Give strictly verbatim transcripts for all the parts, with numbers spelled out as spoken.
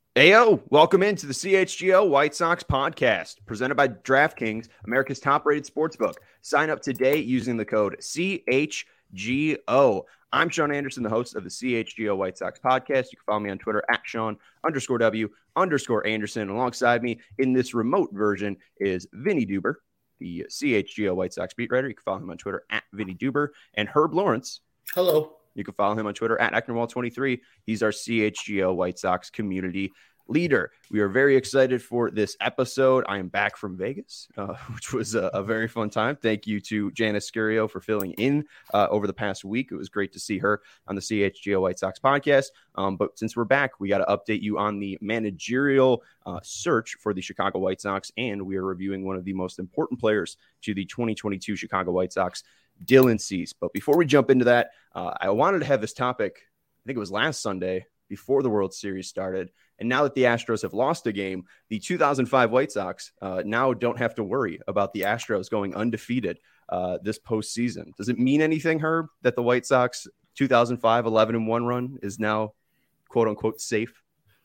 Ayo, welcome into the C H G O White Sox podcast, presented by DraftKings, America's top-rated sportsbook. Sign up today using the code C H G O. I'm Sean Anderson, the host of the C H G O White Sox podcast. You can follow me on Twitter at Sean underscore W underscore Anderson. Alongside me in this remote version is Vinny Duber, the C H G O White Sox beat writer. You can follow him on Twitter at Vinny Duber. And Herb Lawrence. Hello. You can follow him on Twitter at Ecknerwall twenty-three. He's our C H G O White Sox community leader. We are very excited for this episode. I am back from Vegas, uh, which was a, a very fun time. Thank you to Janice Scurio for filling in uh, over the past week. It was great to see her on the C H G O White Sox podcast. Um, but since we're back, we got to update you on the managerial uh, search for the Chicago White Sox, and we are reviewing one of the most important players to the twenty twenty-two Chicago White Sox, Dylan Cease. But before we jump into that, uh, I wanted to have this topic, I think it was last Sunday, before the World Series started. And now that the Astros have lost a game, the two thousand five White Sox uh, now don't have to worry about the Astros going undefeated uh, this postseason. Does it mean anything, Herb, that the White Sox two thousand five eleven and one run is now, quote unquote, safe?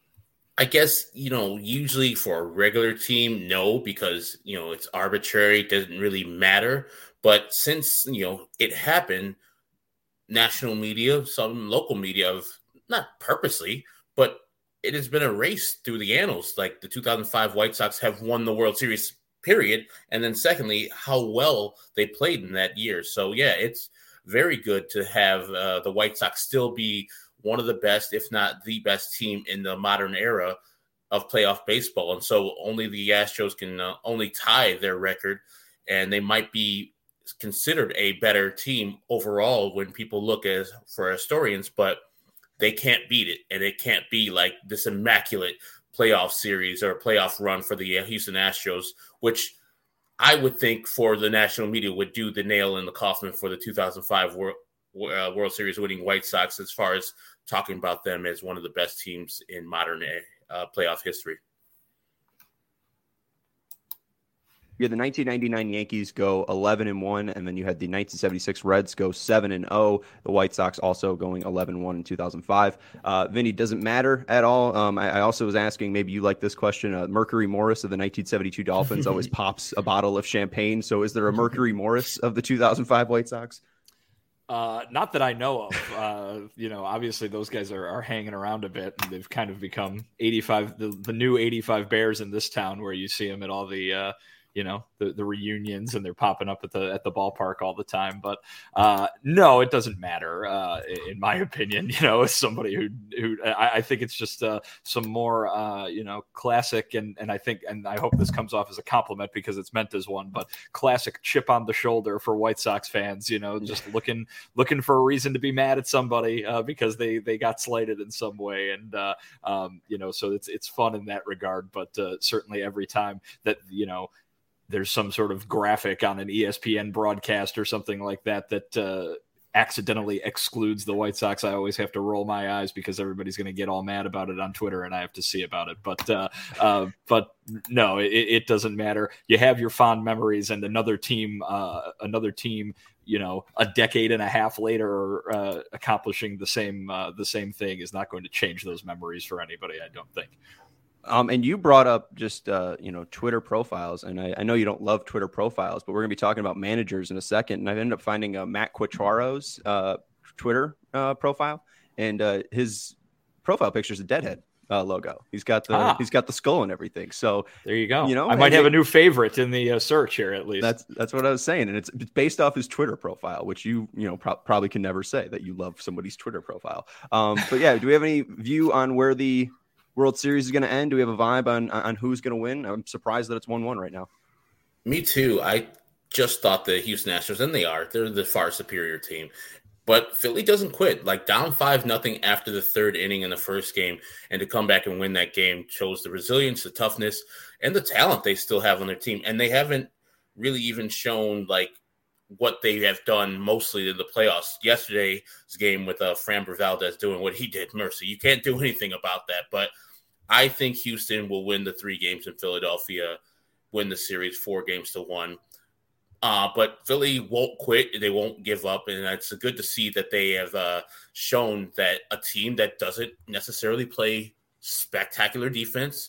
I guess, you know, usually for a regular team, no, because, you know, it's arbitrary. It doesn't really matter. But since, you know, it happened, national media, some local media have, not purposely, but it has been erased through the annals. Like the two thousand five White Sox have won the World Series, period. And then secondly, how well they played in that year. So, yeah, it's very good to have uh, the White Sox still be one of the best, if not the best team in the modern era of playoff baseball. And so only the Astros can uh, only tie their record, and they might be considered a better team overall when people look as for historians, but they can't beat it, and it can't be like this immaculate playoff series or playoff run for the Houston Astros, which I would think for the national media would do the nail in the coffin for the two thousand five World, uh, World Series winning White Sox as far as talking about them as one of the best teams in modern uh, playoff history. You had the nineteen ninety-nine Yankees go eleven and one, and then you had the nineteen seventy-six Reds go seven and oh. The White Sox also going eleven and one in two thousand five. Uh, Vinny, doesn't matter at all. Um, I, I also was asking, maybe you like this question. Uh, Mercury Morris of the nineteen seventy-two Dolphins always pops a bottle of champagne. So is there a Mercury Morris of the two thousand five White Sox? Uh, not that I know of. Uh, you know, obviously those guys are, are hanging around a bit, and they've kind of become eighty-five, the, the new eighty-five Bears in this town, where you see them at all the, uh, you know, the, the reunions, and they're popping up at the at the ballpark all the time. But uh, no, it doesn't matter, uh, in my opinion. You know, as somebody who who I, I think it's just uh, some more, uh, you know, classic, and and I think, and I hope this comes off as a compliment because it's meant as one, but classic chip on the shoulder for White Sox fans. You know, just looking looking for a reason to be mad at somebody uh, because they they got slighted in some way, and uh, um, you know, so it's it's fun in that regard. But uh, certainly every time that, you know, there's some sort of graphic on an E S P N broadcast or something like that that uh, accidentally excludes the White Sox, I always have to roll my eyes because everybody's going to get all mad about it on Twitter, and I have to see about it. But uh, uh, but no, it, it doesn't matter. You have your fond memories, and another team, uh, another team, you know, a decade and a half later, uh, accomplishing the same uh, the same thing is not going to change those memories for anybody, I don't think. Um, and you brought up just, uh, you know, Twitter profiles. And I, I know you don't love Twitter profiles, but we're going to be talking about managers in a second. And I ended up finding uh, Matt Quatraro's uh, Twitter uh, profile. And uh, his profile picture is a Deadhead uh, logo. He's got the ah. he's got the skull and everything. So there you go. You know, I might have a new favorite in the uh, search here, at least. That's that's what I was saying. And it's, it's based off his Twitter profile, which you, you know, pro- probably can never say that you love somebody's Twitter profile. Um, but yeah, do we have any view on where the World Series is going to end? Do we have a vibe on on who's going to win? I'm surprised that it's one one right now. Me too. I just thought the Houston Astros, and they are, they're the far superior team. But Philly doesn't quit. Like, down five nothing after the third inning in the first game, and to come back and win that game shows the resilience, the toughness, and the talent they still have on their team. And they haven't really even shown, like, what they have done mostly in the playoffs. Yesterday's game with uh, Framber Valdez doing what he did, mercy. You can't do anything about that. But I think Houston will win the three games in Philadelphia, win the series four games to one. Uh, but Philly won't quit. They won't give up. And it's good to see that they have uh, shown that a team that doesn't necessarily play spectacular defense,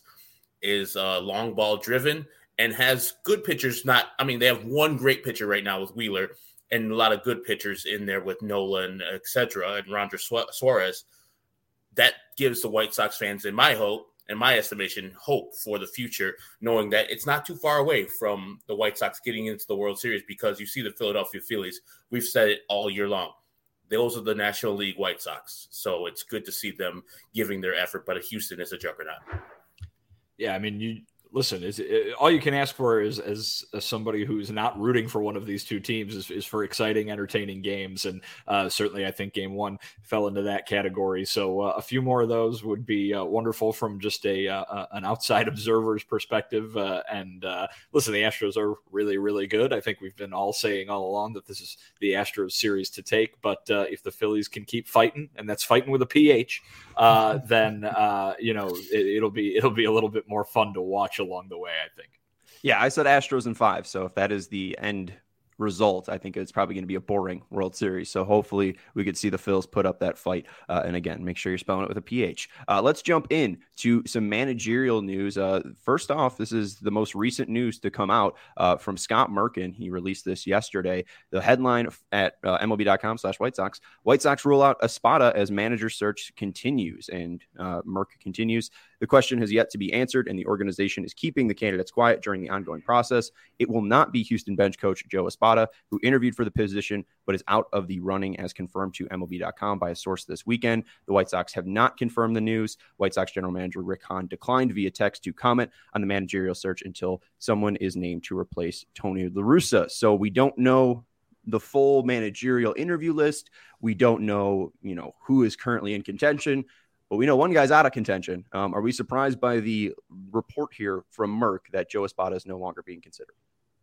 is uh, long ball driven, and has good pitchers. Not, I mean, they have one great pitcher right now with Wheeler, and a lot of good pitchers in there with Nola and et cetera, and Rondre Suarez. That gives the White Sox fans, in my hope, in my estimation, hope for the future, knowing that it's not too far away from the White Sox getting into the World Series, because you see the Philadelphia Phillies. We've said it all year long. Those are the National League White Sox. So it's good to see them giving their effort, but Houston is a juggernaut. Yeah, I mean, you listen, is it, all you can ask for is as, as somebody who's not rooting for one of these two teams is, is for exciting, entertaining games. And uh, certainly I think game one fell into that category. So uh, a few more of those would be uh, wonderful from just a uh, an outside observer's perspective. Uh, and uh, listen, the Astros are really, really good. I think we've been all saying all along that this is the Astros series to take. But uh, if the Phillies can keep fighting, and that's fighting with a P H, uh, then, uh, you know, it, it'll be it'll be a little bit more fun to watch along the way, I think. Yeah, I said Astros in five. So if that is the end result, I think it's probably going to be a boring World Series. So hopefully we could see the Phils put up that fight. Uh, and again, make sure you're spelling it with a P H. Uh, let's jump in to some managerial news. Uh, first off, this is the most recent news to come out uh, from Scott Merkin. He released this yesterday. The headline at uh, M L B dot com slash White Sox, White Sox rule out Espada as manager search continues. And uh, Merck continues, the question has yet to be answered, and the organization is keeping the candidates quiet during the ongoing process. It will not be Houston bench coach Joe Espada, who interviewed for the position, but is out of the running, as confirmed to M L B dot com by a source this weekend. The White Sox have not confirmed the news. White Sox general manager Rick Hahn declined via text to comment on the managerial search until someone is named to replace Tony La Russa. So we don't know the full managerial interview list. We don't know, you know, who is currently in contention. But we know one guy's out of contention. Um, are we surprised by the report here from Merck that Joe Espada is no longer being considered?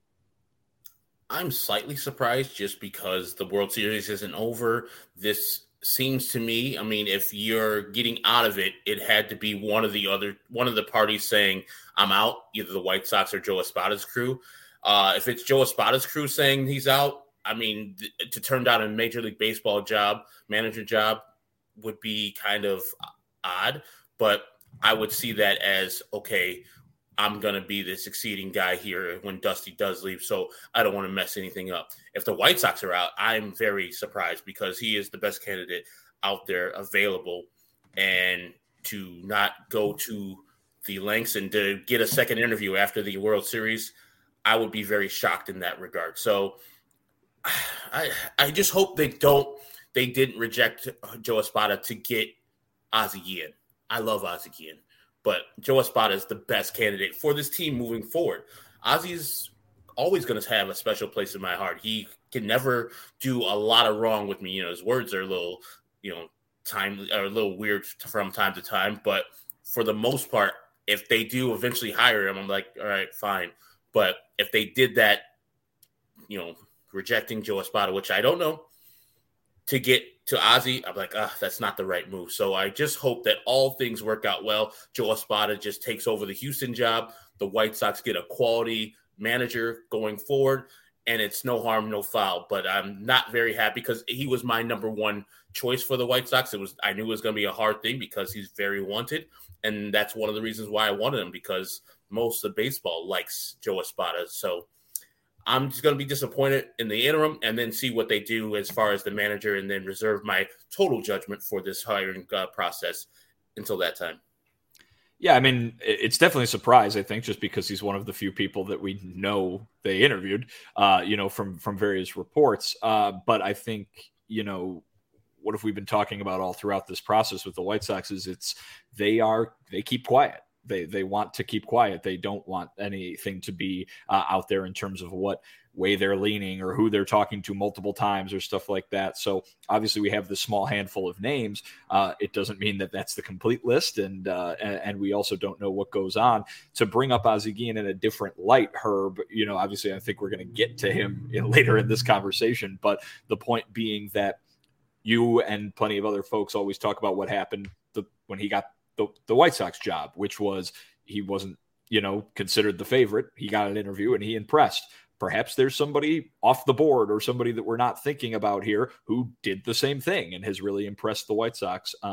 I'm slightly surprised just because the World Series isn't over. This seems to me, I mean, if you're getting out of it, it had to be one of the other, one of the parties saying, I'm out, either the White Sox or Joe Espada's crew. Uh, if it's Joe Espada's crew saying he's out, I mean, th- to turn down a Major League Baseball job, manager job, would be kind of odd, but I would see that as, okay, I'm going to be the succeeding guy here when Dusty does leave, so I don't want to mess anything up. If the White Sox are out, I'm very surprised because he is the best candidate out there available, and to not go to the lengths and to get a second interview after the World Series, I would be very shocked in that regard. So I I just hope they don't They didn't reject Joe Espada to get Ozzie Guillen. I love Ozzie Guillen, but Joe Espada is the best candidate for this team moving forward. Ozzie's always going to have a special place in my heart. He can never do a lot of wrong with me. You know, his words are a little, you know, time are a little weird from time to time, but for the most part, if they do eventually hire him, I'm like, all right, fine. But if they did that, you know, rejecting Joe Espada, which I don't know, to get to Ozzie, I'm like, ah, that's not the right move. So I just hope that all things work out well. Joe Espada just takes over the Houston job. The White Sox get a quality manager going forward, and it's no harm, no foul. But I'm not very happy because he was my number one choice for the White Sox. It was, I knew it was going to be a hard thing because he's very wanted, and that's one of the reasons why I wanted him, because most of baseball likes Joe Espada. So I'm just going to be disappointed in the interim and then see what they do as far as the manager, and then reserve my total judgment for this hiring uh, process until that time. Yeah, I mean, it's definitely a surprise, I think, just because he's one of the few people that we know they interviewed, uh, you know, from, from various reports. Uh, but I think, you know, what have we been talking about all throughout this process with the White Sox is it's, they are, they keep quiet. They they want to keep quiet. They don't want anything to be uh, out there in terms of what way they're leaning or who they're talking to multiple times or stuff like that. So obviously we have this small handful of names. Uh, it doesn't mean that that's the complete list. And, uh, and and we also don't know what goes on. To bring up Ozzie Guillen in a different light, Herb, you know, obviously I think we're going to get to him in, later in this conversation. But the point being that you and plenty of other folks always talk about what happened the, when he got The, the White Sox job, which was he wasn't, you know, considered the favorite. He got an interview and he impressed. Perhaps there's somebody off the board or somebody that we're not thinking about here who did the same thing and has really impressed the White Sox. Um,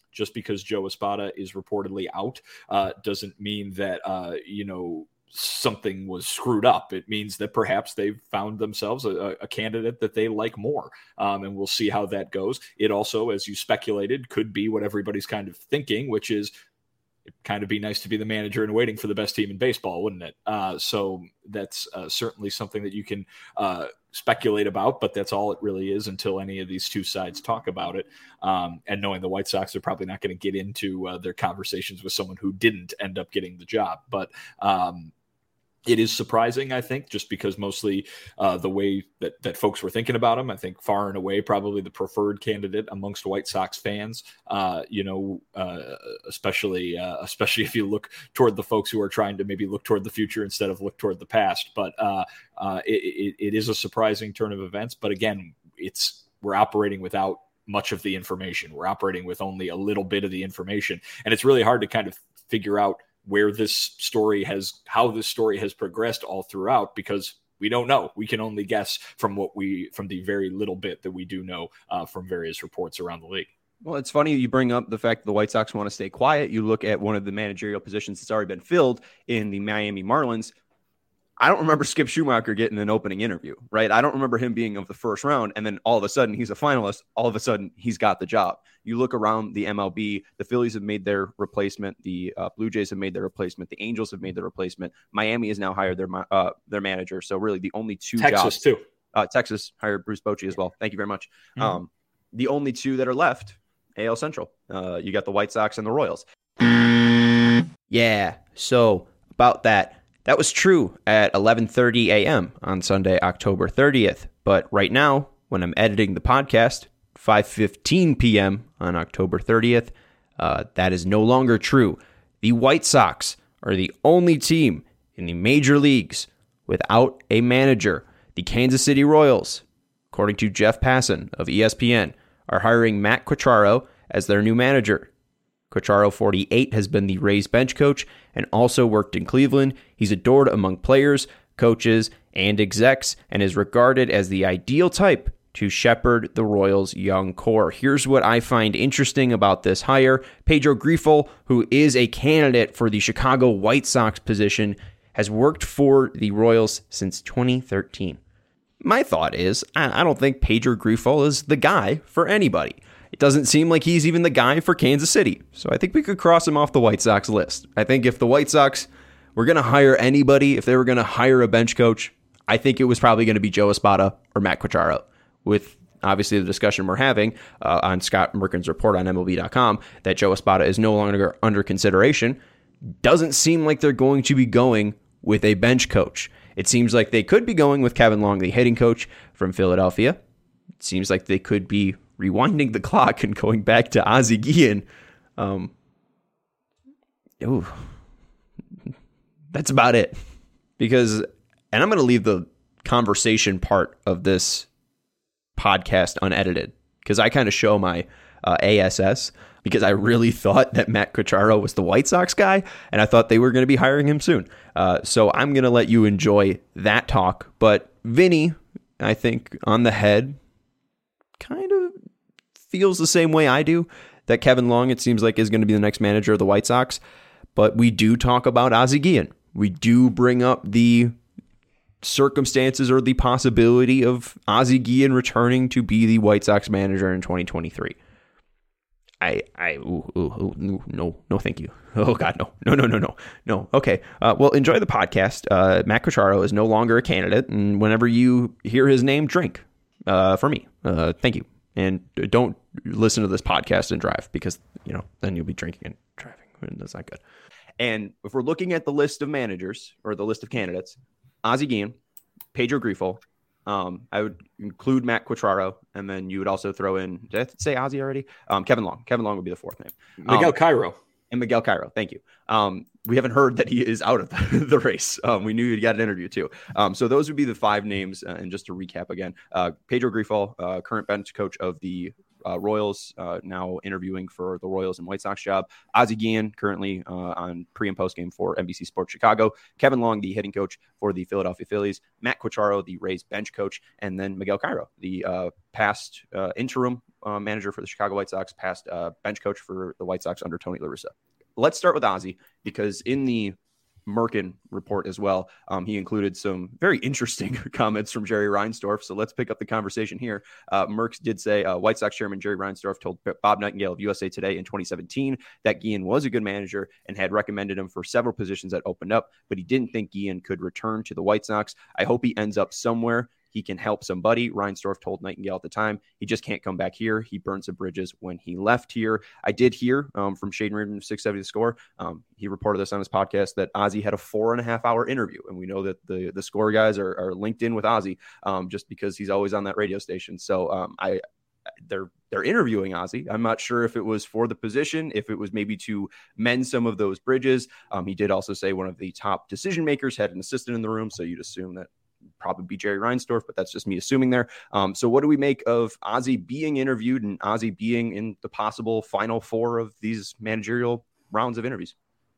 just because Joe Espada is reportedly out uh, doesn't mean that, uh, you know, something was screwed up. It means that perhaps they've found themselves a, a candidate that they like more. Um, and we'll see how that goes. It also, as you speculated, could be what everybody's kind of thinking, which is it'd kind of be nice to be the manager and waiting for the best team in baseball, wouldn't it? Uh, so that's uh, certainly something that you can uh, speculate about, but that's all it really is until any of these two sides talk about it. Um, and knowing the White Sox are probably not going to get into uh, their conversations with someone who didn't end up getting the job. But um, it is surprising, I think, just because mostly uh, the way that, that folks were thinking about him, I think far and away probably the preferred candidate amongst White Sox fans, uh, you know, uh, especially uh, especially if you look toward the folks who are trying to maybe look toward the future instead of look toward the past. But uh, uh, it, it, it is a surprising turn of events. But again, it's we're operating without much of the information. We're operating with only a little bit of the information. And it's really hard to kind of figure out where this story has, how this story has progressed all throughout, because we don't know. We can only guess from what we, from the very little bit that we do know uh, from various reports around the league. Well, it's funny you bring up the fact that the White Sox want to stay quiet. You look at one of the managerial positions that's already been filled in the Miami Marlins. I don't remember Skip Schumacher getting an opening interview, right? I don't remember him being of the first round, and then all of a sudden he's a finalist. All of a sudden he's got the job. You look around the M L B, the Phillies have made their replacement. The uh, Blue Jays have made their replacement. The Angels have made their replacement. Miami has now hired their uh, their manager. So really the only two Texas jobs. too. Uh, Texas hired Bruce Bochy as well. Thank you very much. Mm-hmm. Um, the only two that are left, A L Central. Uh, you got the White Sox and the Royals. Yeah, so about that. That was true at eleven thirty a.m. on Sunday, October thirtieth. But right now, when I'm editing the podcast, five fifteen p.m. on October thirtieth, uh, that is no longer true. The White Sox are the only team in the major leagues without a manager. The Kansas City Royals, according to Jeff Passan of E S P N, are hiring Matt Quatraro as their new manager. Quatraro, forty-eight, has been the Rays bench coach and also worked in Cleveland. He's adored among players, coaches, and execs, and is regarded as the ideal type to shepherd the Royals' young core. Here's what I find interesting about this hire. Pedro Grifol, who is a candidate for the Chicago White Sox position, has worked for the Royals since twenty thirteen. My thought is, I don't think Pedro Grifol is the guy for anybody. It doesn't seem like he's even the guy for Kansas City. So I think we could cross him off the White Sox list. I think if the White Sox were going to hire anybody, if they were going to hire a bench coach, I think it was probably going to be Joe Espada or Matt Quatraro. With obviously the discussion we're having uh, on Scott Merkin's report on M L B dot com that Joe Espada is no longer under consideration, doesn't seem like they're going to be going with a bench coach. It seems like they could be going with Kevin Long, the hitting coach from Philadelphia. It seems like they could be rewinding the clock and going back to Ozzie Guillen. Um, ooh, that's about it. Because, and I'm going to leave the conversation part of this podcast unedited, because I kind of show my uh, A S S, because I really thought that Matt Quatraro was the White Sox guy, and I thought they were going to be hiring him soon. Uh, so I'm going to let you enjoy that talk. But Vinny, I think, on the head, kind of feels the same way I do, that Kevin Long, it seems like, is going to be the next manager of the White Sox. But we do talk about Ozzie Guillen. We do bring up the circumstances or the possibility of Ozzie Guillen returning to be the White Sox manager in twenty twenty-three. I, I, ooh, ooh, ooh, no, no, thank you. Oh, God, no, no, no, no, no, no. Okay, uh, well, enjoy the podcast. Uh, Matt Quatraro is no longer a candidate, and whenever you hear his name, drink uh, for me. Uh, thank you. And don't listen to this podcast and drive, because, you know, then you'll be drinking and driving, and that's not good. And if we're looking at the list of managers or the list of candidates, Ozzie Guillen, Pedro Grifol, um, I would include Matt Quatraro, and then you would also throw in, did I say Ozzie already? Um, Kevin Long. Kevin Long would be the fourth name. Miguel um, Cairo. And Miguel Cairo, thank you. Um, we haven't heard that he is out of the, the race. Um, we knew he got an interview too. Um, so those would be the five names. Uh, and just to recap again, uh, Pedro Grifol, uh, current bench coach of the uh, Royals, uh, now interviewing for the Royals and White Sox job. Ozzie Guillen, currently uh, on pre and post game for N B C Sports Chicago. Kevin Long, the hitting coach for the Philadelphia Phillies. Matt Quatraro, the Rays bench coach, and then Miguel Cairo, the uh, past uh, interim uh, manager for the Chicago White Sox, past uh, bench coach for the White Sox under Tony La Russa. Let's start with Ozzie, because in the Merkin report as well, um, he included some very interesting comments from Jerry Reinsdorf. So let's pick up the conversation here. Uh, Merckx did say uh, White Sox chairman Jerry Reinsdorf told Bob Nightingale of U S A Today in twenty seventeen that Guillen was a good manager and had recommended him for several positions that opened up, but he didn't think Guillen could return to the White Sox. I hope he ends up somewhere. He can help somebody, Reinsdorf told Nightingale at the time. He just can't come back here. He burned some bridges when he left here. I did hear um, from Shaden Reardon of six seventy The Score. Um, he reported this on his podcast that Ozzie had a four and a half hour interview. And we know that the, the Score guys are, are linked in with Ozzie um, just because he's always on that radio station. So um, I they're they're interviewing Ozzie. I'm not sure if it was for the position, if it was maybe to mend some of those bridges. Um, he did also say one of the top decision makers had an assistant in the room. So you'd assume that probably be Jerry Reinsdorf, but that's just me assuming there. Um, so what do we make of Ozzie being interviewed and Ozzie being in the possible final four of these managerial rounds of interviews?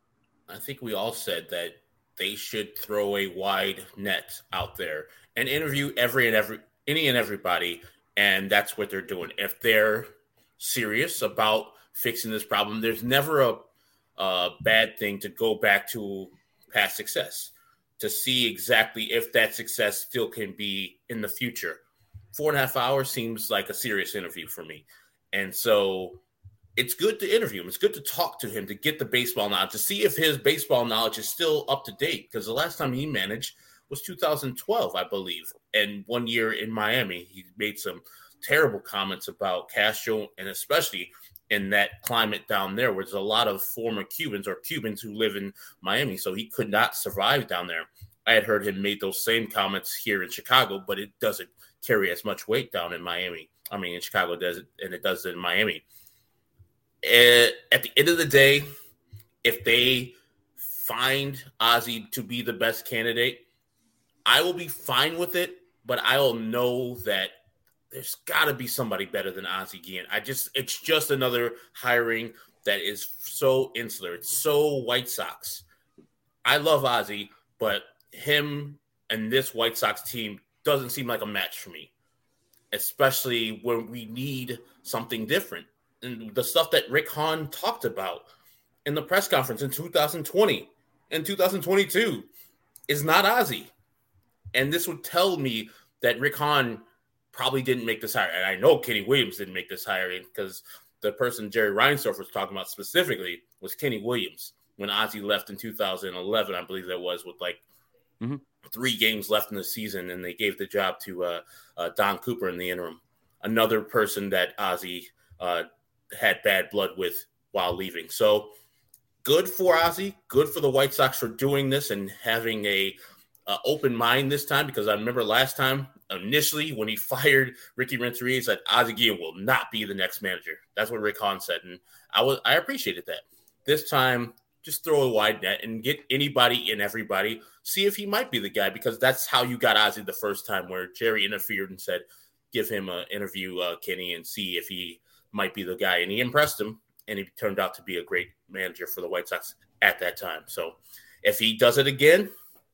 I think we all said that they should throw a wide net out there and interview every and every any and everybody. And that's what they're doing. If they're serious about fixing this problem, there's never a, a bad thing to go back to past success, to see exactly if that success still can be in the future. Four and a half hours seems like a serious interview for me. And so it's good to interview him. It's good to talk to him, to get the baseball knowledge, to see if his baseball knowledge is still up to date. Because the last time he managed was two thousand twelve, I believe. And one year in Miami, he made some terrible comments about Castro, and especially in that climate down there where there's a lot of former Cubans or Cubans who live in Miami. So he could not survive down there. I had heard him make those same comments here in Chicago, but it doesn't carry as much weight down in Miami. I mean, in Chicago does it, and it does it in Miami. And at the end of the day, if they find Ozzie to be the best candidate, I will be fine with it, but I'll know that there's got to be somebody better than Ozzie Guillen. I just, it's just another hiring that is so insular. It's so White Sox. I love Ozzie, but him and this White Sox team doesn't seem like a match for me, especially when we need something different. And the stuff that Rick Hahn talked about in the press conference in two thousand twenty and two thousand twenty-two is not Ozzie. And this would tell me that Rick Hahn probably didn't make this hire. And I know Kenny Williams didn't make this hiring, because the person Jerry Reinsdorf was talking about specifically was Kenny Williams when Ozzie left in two thousand eleven, I believe that was, with like mm-hmm. three games left in the season, and they gave the job to uh, uh, Don Cooper in the interim. Another person that Ozzie uh, had bad blood with while leaving. So good for Ozzie, good for the White Sox for doing this and having a uh, open mind this time, because I remember last time, initially, when he fired Ricky Renteria, he said Ozzie Guillen will not be the next manager. That's what Rick Hahn said, and I was I appreciated that. This time, just throw a wide net and get anybody and everybody. See if he might be the guy, because that's how you got Ozzie the first time, where Jerry interfered and said, give him an interview, uh, Kenny, and see if he might be the guy. And he impressed him, and he turned out to be a great manager for the White Sox at that time. So if he does it again,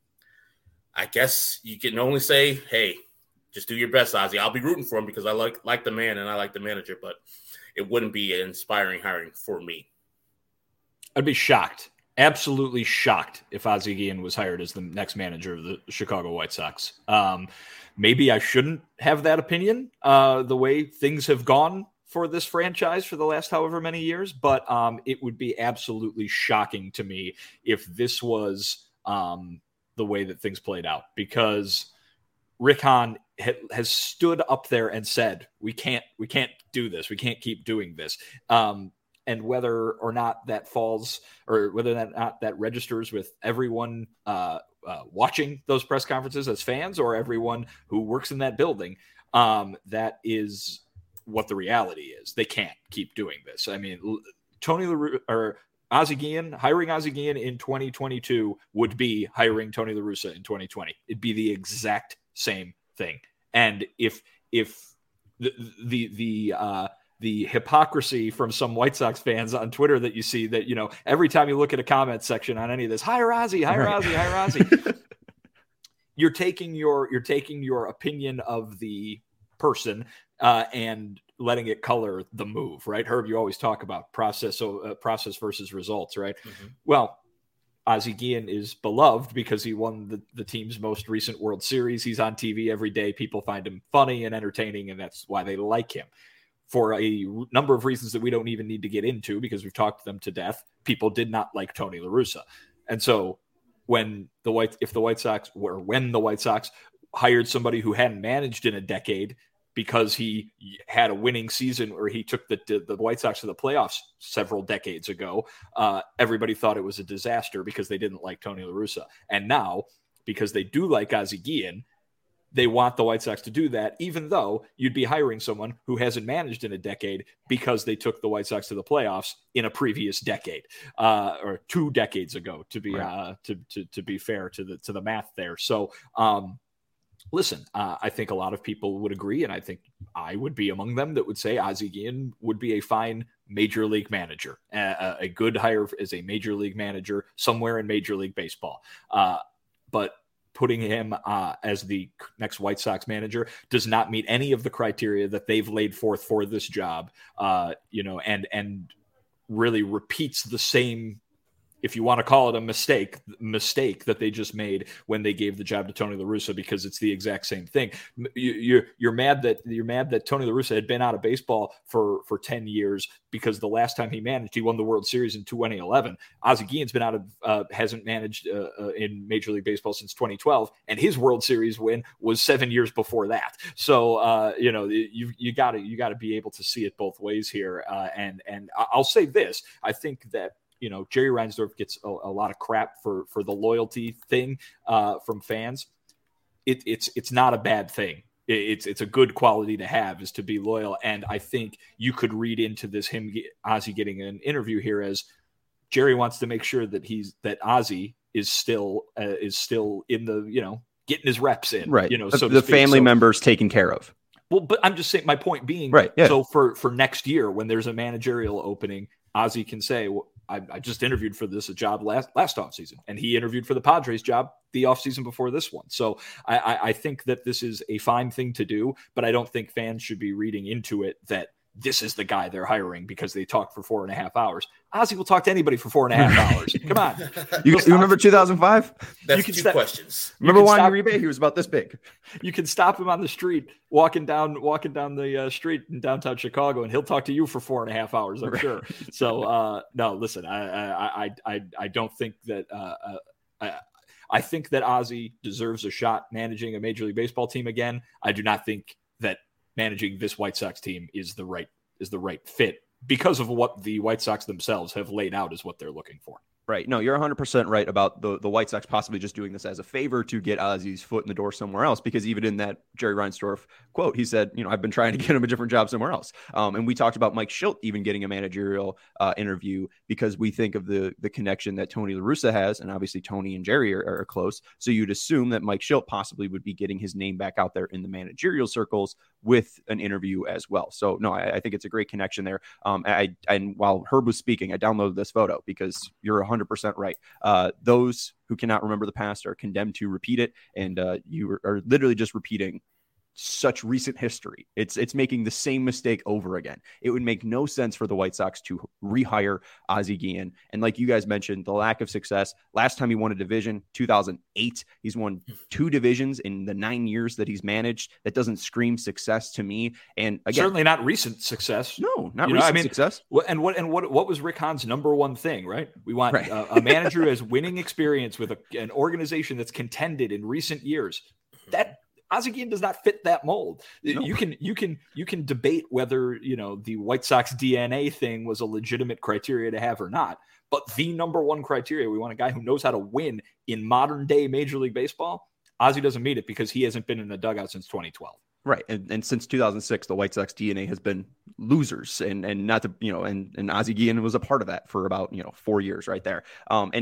I guess you can only say, hey, just do your best, Ozzie. I'll be rooting for him because I like like the man and I like the manager, but it wouldn't be an inspiring hiring for me. I'd be shocked, absolutely shocked, if Ozzie Guillen was hired as the next manager of the Chicago White Sox. Um, maybe I shouldn't have that opinion, uh, the way things have gone for this franchise for the last however many years, but um, it would be absolutely shocking to me if this was um, the way that things played out, because Rick Hahn ha- has stood up there and said, we can't, we can't do this. We can't keep doing this. Um, and whether or not that falls, or whether that not that registers with everyone uh, uh, watching those press conferences as fans, or everyone who works in that building, um, that is what the reality is. They can't keep doing this. I mean, Tony LaRussa, or Ozzie Guillen, hiring Ozzie Guillen in twenty twenty-two would be hiring Tony La Russa in twenty twenty. It'd be the exact same thing. And if if the the the uh, the hypocrisy from some White Sox fans on Twitter that you see, that, you know, every time you look at a comment section on any of this, hire Ozzie, hire right. Ozzie, hire Ozzie, you're taking your you're taking your opinion of the person uh, and letting it color the move, right? Herb, you always talk about process, so uh, process versus results, right? Mm-hmm. Well, Ozzie Guillen is beloved because he won the, the team's most recent World Series. He's on T V every day. People find him funny and entertaining, and that's why they like him. For a number of reasons that we don't even need to get into because we've talked them to death, people did not like Tony La Russa. And so when the White, if the White Sox were, when the White Sox hired somebody who hadn't managed in a decade because he had a winning season or he took the, the, the White Sox to the playoffs several decades ago, uh, everybody thought it was a disaster because they didn't like Tony La Russa. And now, because they do like Ozzie Guillen, they want the White Sox to do that, even though you'd be hiring someone who hasn't managed in a decade because they took the White Sox to the playoffs in a previous decade, uh, or two decades ago, to be right. uh, to, to to be fair to the to the math there. So, um, listen, uh, I think a lot of people would agree, and I think I would be among them that would say Ozzie Guillen would be a fine major league manager, uh, a good hire as a major league manager somewhere in Major League Baseball, uh, but. Putting him uh, as the next White Sox manager does not meet any of the criteria that they've laid forth for this job, uh, you know, and and really repeats the same, if you want to call it a mistake, mistake that they just made when they gave the job to Tony La Russa, because it's the exact same thing. You, you're you're mad that you're mad that Tony La Russa had been out of baseball for for ten years because the last time he managed, he won the World Series in twenty eleven. Ozzie Guillen's been out of uh, hasn't managed uh, uh, in Major League Baseball since twenty twelve, and his World Series win was seven years before that. So uh, you know you you got to you got to be able to see it both ways here. Uh, and and I'll say this: I think that. You know, Jerry Reinsdorf gets a, a lot of crap for for the loyalty thing uh, from fans. It, it's it's not a bad thing. It, it's it's a good quality to have, is to be loyal. And I think you could read into this him Ozzie getting an interview here as Jerry wants to make sure that he's that Ozzie is still uh, is still in the you know getting his reps in, right? You know, the, so the family so, members taken care of. Well, but I'm just saying. My point being, right? Yeah. So for for next year, when there's a managerial opening, Ozzie can say. Well, I, I just interviewed for this a job last last offseason, and he interviewed for the Padres job the offseason before this one. So I, I, I think that this is a fine thing to do, but I don't think fans should be reading into it that this is the guy they're hiring because they talked for four and a half hours. Ozzie will talk to anybody for four and a half hours. Come on. You, you remember two thousand five? That's you can two stop, questions. Remember Juan Uribe? He was about this big. You can stop him on the street, walking down walking down the uh, street in downtown Chicago, and he'll talk to you for four and a half hours, I'm right. sure. So, uh, no, listen, I, I, I, I don't think that uh, uh, I, I think that Ozzie deserves a shot managing a Major League Baseball team again. I do not think that managing this White Sox team is the right is the right fit because of what the White Sox themselves have laid out as what they're looking for. Right. No, you're one hundred percent right about the, the White Sox possibly just doing this as a favor to get Ozzie's foot in the door somewhere else, because even in that Jerry Reinsdorf quote, he said, you know, I've been trying to get him a different job somewhere else. Um, and we talked about Mike Shildt even getting a managerial uh, interview because we think of the the connection that Tony La Russa has, and obviously Tony and Jerry are, are close. So you'd assume that Mike Shildt possibly would be getting his name back out there in the managerial circles with an interview as well. So no, I, I think it's a great connection there. Um, I and while Herb was speaking, I downloaded this photo because you're one hundred percent right. Uh, those who cannot remember the past are condemned to repeat it, and uh, you are, are literally just repeating such recent history. It's it's making the same mistake over again. It would make no sense for the White Sox to rehire Ozzie Guillen. And like you guys mentioned, the lack of success. Last time he won a division, two thousand eight. He's won two divisions in the nine years that he's managed. That doesn't scream success to me. And again, certainly not recent success. No, not you recent know, I mean, success. And what and what what was Rick Hahn's number one thing, right? We want right. a, a manager who has winning experience with a, an organization that's contended in recent years. That Ozzie Guillen does not fit that mold. No. You can you can you can debate whether you know the White Sox D N A thing was a legitimate criteria to have or not. But the number one criteria, we want a guy who knows how to win in modern day Major League Baseball. Ozzie doesn't meet it because he hasn't been in the dugout since twenty twelve. Right. And, and since two thousand six, the White Sox D N A has been losers, and and not to, you know, and, and Ozzie Guillen was a part of that for about, you know, four years right there. Um, and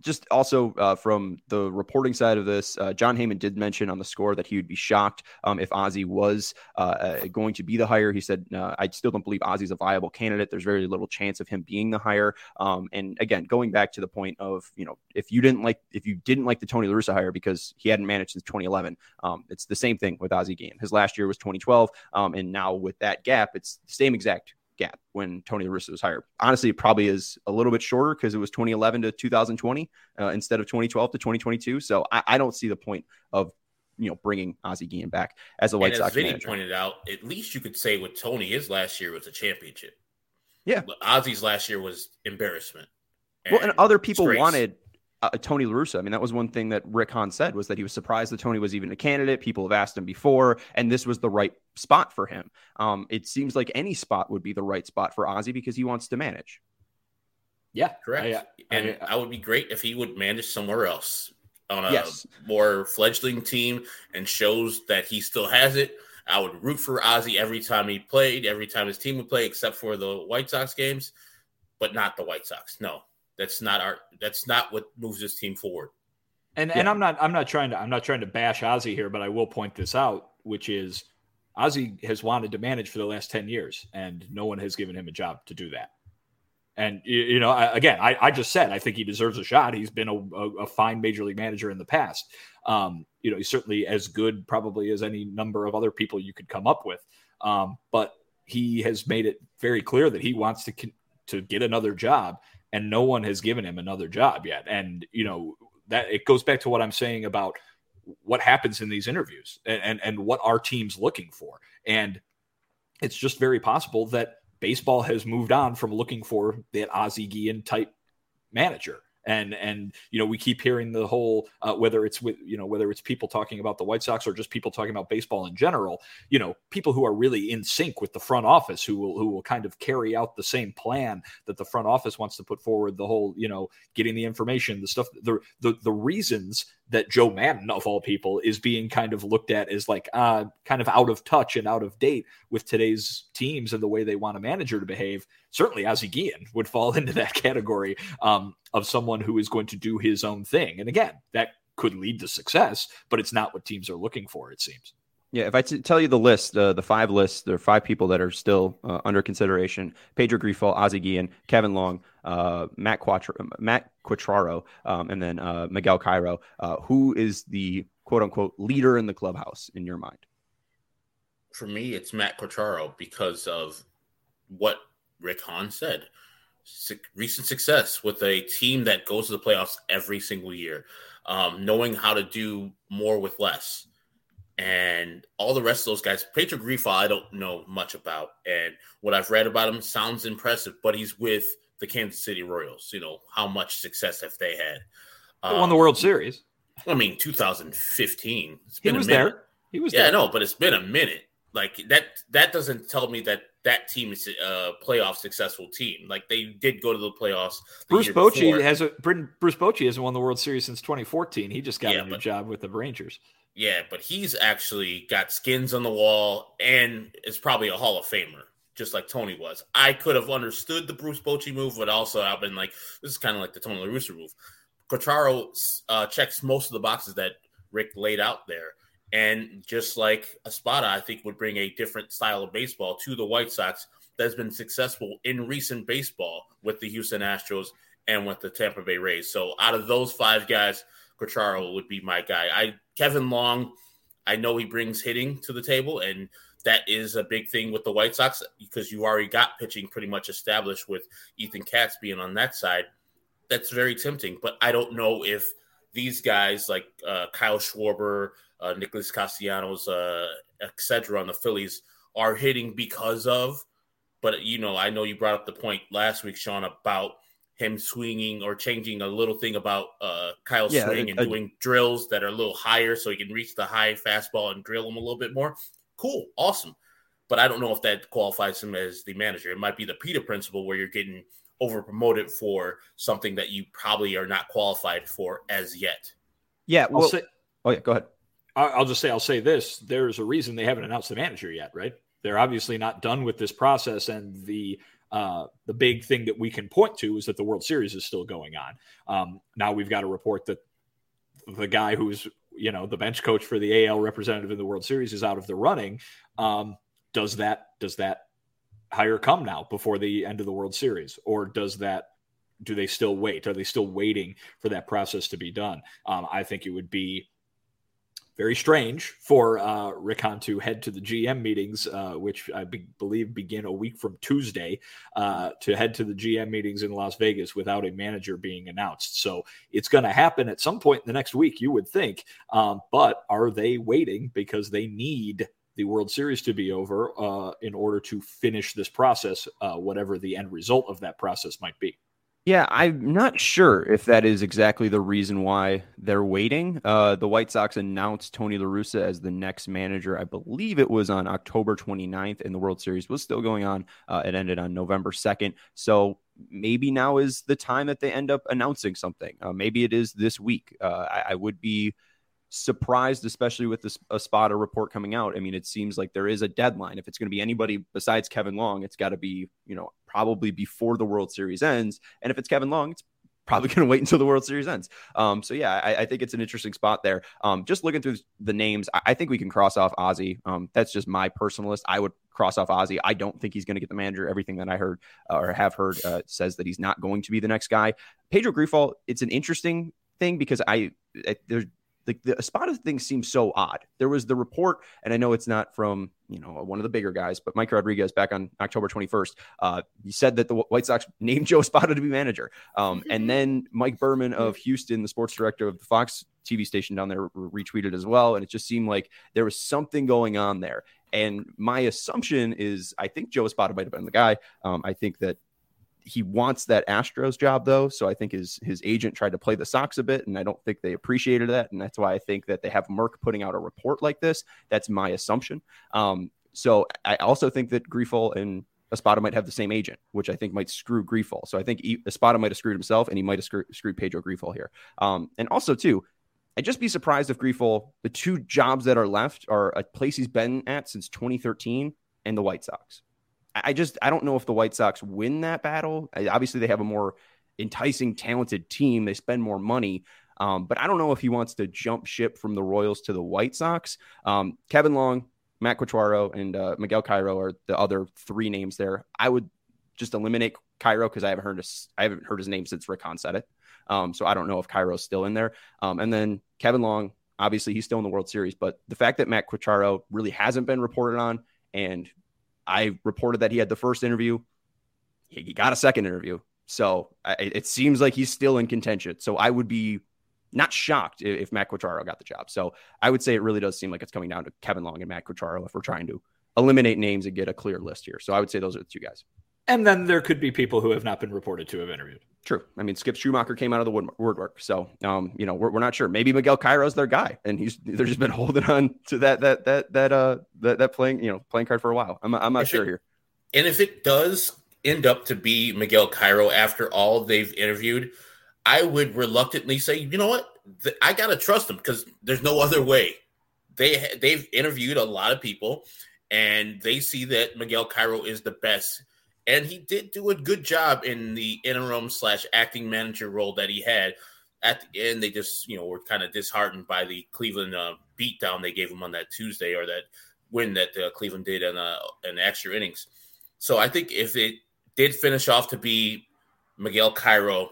just also uh, from the reporting side of this, uh, John Heyman did mention on the score that he would be shocked um, if Ozzie was uh, uh, going to be the hire. He said, uh, I still don't believe Ozzie's a viable candidate. There's very little chance of him being the hire. Um, and again, going back to the point of, you know, if you didn't like, if you didn't like the Tony La Russa hire because he hadn't managed since twenty eleven, um, it's the same thing with Ozzie Guillen. His last year was twenty twelve. Um, and now with that gap, it's the same exact gap when Tony La Russa was hired. Honestly, it probably is a little bit shorter because it was twenty eleven to two thousand twenty uh, instead of twenty twelve to twenty twenty-two. So I, I don't see the point of, you know, bringing Ozzie Guillen back as a White and Sox as Vinny manager. Pointed out, at least you could say with Tony, his last year was a championship. Yeah. Ozzie's last year was embarrassment. And well, and other people disgrace. wanted uh, Tony La Russa. I mean, that was one thing that Rick Hahn said, was that he was surprised that Tony was even a candidate. People have asked him before, and this was the right spot for him. Um, it seems like any spot would be the right spot for Ozzie because he wants to manage. Yeah, correct. I, I, and I, I would be great if he would manage somewhere else on a yes. more fledgling team and shows that he still has it. I would root for Ozzie every time he played, every time his team would play, except for the White Sox games, but not the White Sox. No, that's not our. That's not what moves this team forward. And yeah. and I'm not I'm not trying to I'm not trying to bash Ozzie here, but I will point this out, which is Ozzie has wanted to manage for the last ten years, and no one has given him a job to do that. And, you know, I, again, I, I just said I think he deserves a shot. He's been a, a, a fine major league manager in the past. Um, you know, he's certainly as good probably as any number of other people you could come up with. Um, but he has made it very clear that he wants to to get another job, and no one has given him another job yet. And, you know, that it goes back to what I'm saying about what happens in these interviews and, and, and what our team's looking for. And it's just very possible that baseball has moved on from looking for that Ozzie Guillen type manager. And, and, you know, we keep hearing the whole, uh, whether it's with, you know, whether it's people talking about the White Sox or just people talking about baseball in general, you know, people who are really in sync with the front office, who will, who will kind of carry out the same plan that the front office wants to put forward, the whole, you know, getting the information, the stuff, the, the, the reasons that Joe Maddon of all people is being kind of looked at as like, uh, kind of out of touch and out of date with today's teams and the way they want a manager to behave. Certainly Ozzie Guillen would fall into that category um, of someone who is going to do his own thing. And again, that could lead to success, but it's not what teams are looking for, it seems. Yeah, if I t- tell you the list, uh, the five lists, there are five people that are still uh, under consideration: Pedro Grifol, Ozzie Guillen, Kevin Long, uh, Matt Quattro, Matt Quatraro, um, and then uh, Miguel Cairo. Uh, who is the quote-unquote leader in the clubhouse in your mind? For me, it's Matt Quatraro because of what Rick Hahn said. Se- recent success with a team that goes to the playoffs every single year, um, knowing how to do more with less. And all the rest of those guys, Pedro Grifol, I don't know much about. And what I've read about him sounds impressive, but he's with the Kansas City Royals. You know, how much success have they had? They um, won the World Series. I mean, two thousand fifteen. It's he been was a minute. there. He was yeah, there. I know, but it's been a minute. Like that, that doesn't tell me that that team is a playoff successful team. Like they did go to the playoffs. The Bruce Bochy has a Bruce Bochy hasn't won the World Series since twenty fourteen. He just got yeah, a new but, job with the Rangers. Yeah, but he's actually got skins on the wall and is probably a Hall of Famer, just like Tony was. I could have understood the Bruce Bochy move, but also I've been like, this is kind of like the Tony La Russa move. Quatraro uh, checks most of the boxes that Rick laid out there. And just like Espada, I think would bring a different style of baseball to the White Sox that's been successful in recent baseball with the Houston Astros and with the Tampa Bay Rays. So out of those five guys, Quatraro would be my guy. I Kevin Long, I know he brings hitting to the table, and that is a big thing with the White Sox because you already got pitching pretty much established with Ethan Katz being on that side. That's very tempting, but I don't know if these guys like uh, Kyle Schwarber, uh, Nicholas Castellanos, uh, et cetera on the Phillies are hitting because of, but you know, I know you brought up the point last week, Sean, about him swinging or changing a little thing about uh, Kyle's yeah, swing and I, doing drills that are a little higher so he can reach the high fastball and drill him a little bit more. Cool. Awesome. But I don't know if that qualifies him as the manager. It might be the Peter principle where you're getting over promoted for something that you probably are not qualified for as yet. Yeah. Well, say, oh yeah, go ahead. I'll just say, I'll say this, there's a reason they haven't announced the manager yet, right? They're obviously not done with this process, and the uh, the big thing that we can point to is that the World Series is still going on. Um, now we've got a report that the guy who's, you know, the bench coach for the A L representative in the World Series is out of the running. Um, does that, does that hire come now before the end of the World Series, or does that, do they still wait? Are they still waiting for that process to be done? Um, I think it would be very strange for uh, Rick Hahn to head to the G M meetings, uh, which I be- believe begin a week from Tuesday, uh, to head to the G M meetings in Las Vegas without a manager being announced. So it's going to happen at some point in the next week, you would think. Um, but are they waiting because they need the World Series to be over uh, in order to finish this process, uh, whatever the end result of that process might be? Yeah, I'm not sure if that is exactly the reason why they're waiting. Uh, the White Sox announced Tony La Russa as the next manager. I believe it was on October twenty-ninth, and the World Series was still going on. Uh, it ended on November second. So maybe now is the time that they end up announcing something. Uh, maybe it is this week. Uh, I, I would be surprised, especially with this Espada report coming out. I mean, it seems like there is a deadline. If it's going to be anybody besides Kevin Long, it's got to be, you know, probably before the World Series ends. And if it's Kevin Long, it's probably going to wait until the World Series ends. Um, so yeah, I, I think it's an interesting spot there. Um, just looking through the names, I, I think we can cross off Ozzie. Um, that's just my personal list. I would cross off Ozzie. I don't think he's going to get the manager. Everything that I heard uh, or have heard uh, says that he's not going to be the next guy. Pedro Grifol, it's an interesting thing because I, I there's The, the Espada thing seems so odd. There was the report, and I know it's not from, you know, one of the bigger guys, but Mike Rodriguez back on October twenty-first, uh, he said that the White Sox named Joe Espada to be manager. Um, and then Mike Berman of Houston, the sports director of the Fox T V station down there, retweeted as well. And it just seemed like there was something going on there. And my assumption is I think Joe Espada might have been the guy. Um, I think that he wants that Astros job, though. So I think his his agent tried to play the Sox a bit, and I don't think they appreciated that. And that's why I think that they have Merck putting out a report like this. That's my assumption. Um, so I also think that Grifol and Espada might have the same agent, which I think might screw Grifol. So I think Espada might have screwed himself, and he might have screw, screwed Pedro Grifol here. Um, and also, too, I'd just be surprised if Grifol, the two jobs that are left are a place he's been at since twenty thirteen and the White Sox. I just, I don't know if the White Sox win that battle. Obviously, they have a more enticing, talented team. They spend more money. Um, but I don't know if he wants to jump ship from the Royals to the White Sox. Um, Kevin Long, Matt Quatraro, and uh, Miguel Cairo are the other three names there. I would just eliminate Cairo because I haven't heard his, I haven't heard his name since Rick Hahn said it. Um, so I don't know if Cairo's still in there. Um, and then Kevin Long, obviously, he's still in the World Series. But the fact that Matt Quatraro really hasn't been reported on, and I reported that he had the first interview. He got a second interview. So I, it seems like he's still in contention. So I would be not shocked if, if Matt Quatraro got the job. So I would say it really does seem like it's coming down to Kevin Long and Matt Quatraro if we're trying to eliminate names and get a clear list here. So I would say those are the two guys. And then there could be people who have not been reported to have interviewed. True. I mean, Skip Schumacher came out of the wood, woodwork. So, um, you know, we're, we're not sure. Maybe Miguel Cairo's their guy, and he's they're just been holding on to that that that that uh that, that playing you know playing card for a while. I'm I'm not if sure it, here. And if it does end up to be Miguel Cairo after all they've interviewed, I would reluctantly say, you know what, I gotta trust them because there's no other way. They they've interviewed a lot of people, and they see that Miguel Cairo is the best. And he did do a good job in the interim slash acting manager role that he had. At the end, they just, you know, were kind of disheartened by the Cleveland uh, beatdown they gave him on that Tuesday, or that win that uh, Cleveland did in, uh, in extra innings. So I think if it did finish off to be Miguel Cairo,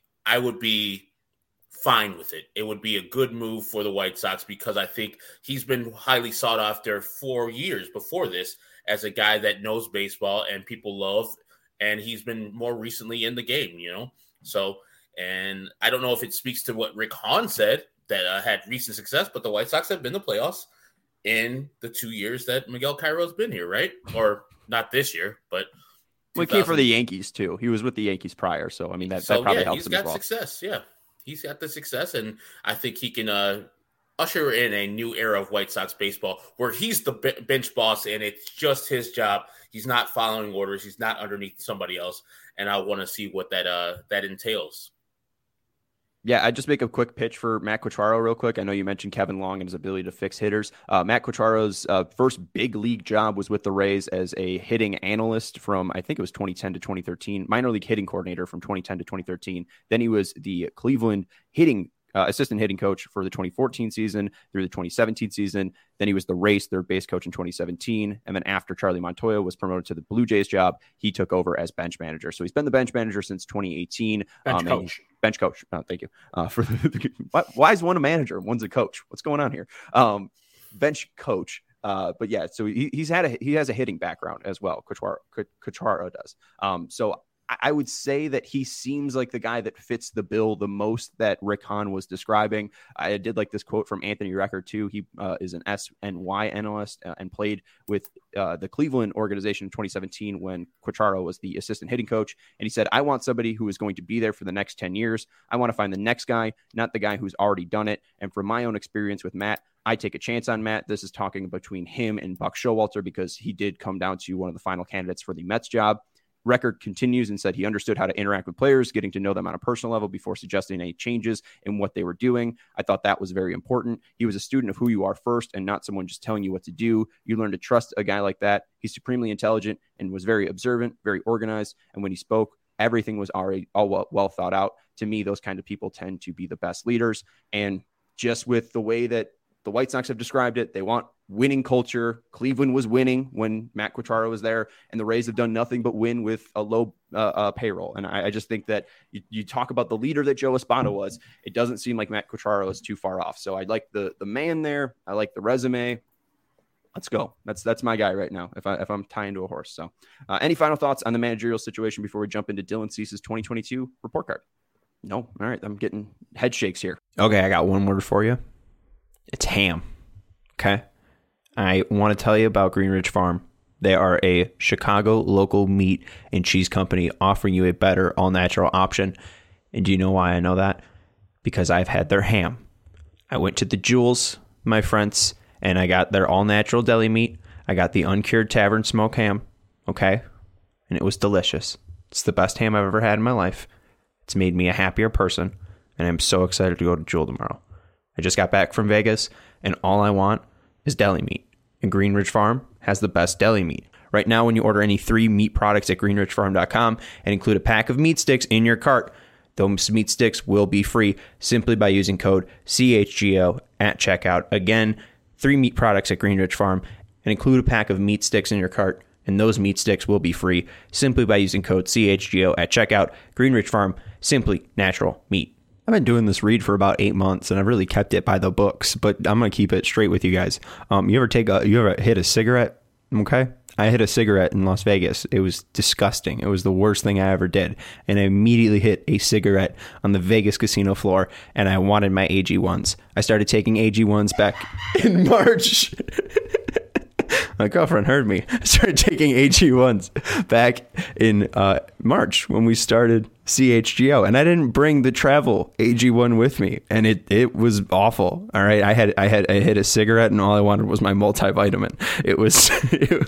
I would be fine with it. It would be a good move for the White Sox because I think he's been highly sought after for years before this as a guy that knows baseball and people love, and he's been more recently in the game, you know? So, and I don't know if it speaks to what Rick Hahn said that uh, had recent success, but the White Sox have been to playoffs in the two years that Miguel Cairo's been here, right? Or not this year, but well, he came for the Yankees too. He was with the Yankees prior. So, I mean, that, so, that probably yeah, helps him as well. He's got success. Yeah. He's got the success, and I think he can uh, usher in a new era of White Sox baseball where he's the b- bench boss and it's just his job. He's not following orders. He's not underneath somebody else. And I want to see what that uh, that entails. Yeah, I just make a quick pitch for Matt Quatraro real quick. I know you mentioned Kevin Long and his ability to fix hitters. Uh, Matt Quatraro's uh, first big league job was with the Rays as a hitting analyst from, I think it was twenty ten to twenty thirteen, minor league hitting coordinator from twenty ten to twenty thirteen. Then he was the Cleveland hitting Uh, assistant hitting coach for the twenty fourteen season through the twenty seventeen season. Then he was the Rays third base coach in twenty seventeen. And then after Charlie Montoyo was promoted to the Blue Jays job, he took over as bench manager. So he's been the bench manager since twenty eighteen. Bench um, coach. Bench coach. Oh, thank you. Uh, for the, why, why is one a manager? One's a coach. What's going on here? Um, bench coach. Uh, but yeah, so he, he's had a, he has a hitting background as well. Quatraro, Quatraro does. Um, so I would say that he seems like the guy that fits the bill the most that Rick Hahn was describing. I did like this quote from Anthony Recker too. He uh, is an S N Y analyst uh, and played with uh, the Cleveland organization in twenty seventeen when Quatraro was the assistant hitting coach. And he said, I want somebody who is going to be there for the next ten years. I want to find the next guy, not the guy who's already done it. And from my own experience with Matt, I take a chance on Matt. This is talking between him and Buck Showalter because he did come down to one of the final candidates for the Mets job. Record continues and said he understood how to interact with players, getting to know them on a personal level before suggesting any changes in what they were doing. I thought that was very important. He was a student of who you are first and not someone just telling you what to do. You learn to trust a guy like that. He's supremely intelligent and was very observant, very organized. And when he spoke, everything was already all well, well thought out. To me, those kind of people tend to be the best leaders. And just with the way that the White Sox have described it, they want winning culture. Cleveland was winning when Matt Quatraro was there, and the Rays have done nothing but win with a low uh, uh, payroll. And I, I just think that you, you talk about the leader that Joe Espada was, it doesn't seem like Matt Quatraro is too far off. So I like the the man there. I like the resume. Let's go. That's that's my guy right now. If I if I'm tying to a horse. So, uh, any final thoughts on the managerial situation before we jump into Dylan Cease's twenty twenty-two report card? No. All right. I'm getting head shakes here. Okay, I got one word for you. It's ham. Okay. I want to tell you about Green Ridge Farm. They are a Chicago local meat and cheese company offering you a better all-natural option. And do you know why I know that? Because I've had their ham. I went to the Jewels, my friends, and I got their all-natural deli meat. I got the uncured tavern smoke ham. Okay. And it was delicious. It's the best ham I've ever had in my life. It's made me a happier person. And I'm so excited to go to Jewel tomorrow. I just got back from Vegas, and all I want is deli meat. And Green Ridge Farm has the best deli meat. Right now, when you order any three meat products at green ridge farm dot com and include a pack of meat sticks in your cart, those meat sticks will be free simply by using code C H G O at checkout. Again, three meat products at Green Ridge Farm and include a pack of meat sticks in your cart, and those meat sticks will be free simply by using code C H G O at checkout. Green Ridge Farm, simply natural meat. I've been doing this read for about eight months, and I've really kept it by the books, but I'm going to keep it straight with you guys. Um, you ever take a, you ever hit a cigarette? Okay. I hit a cigarette in Las Vegas. It was disgusting. It was the worst thing I ever did. And I immediately hit a cigarette on the Vegas casino floor, and I wanted my A G ones. I started taking A G ones back in March. My girlfriend heard me. I started taking A G ones back in uh, March when we started C H G O, and I didn't bring the travel A G one with me, and it it was awful. All right, I had I had I hit a cigarette, and all I wanted was my multivitamin. It was. It,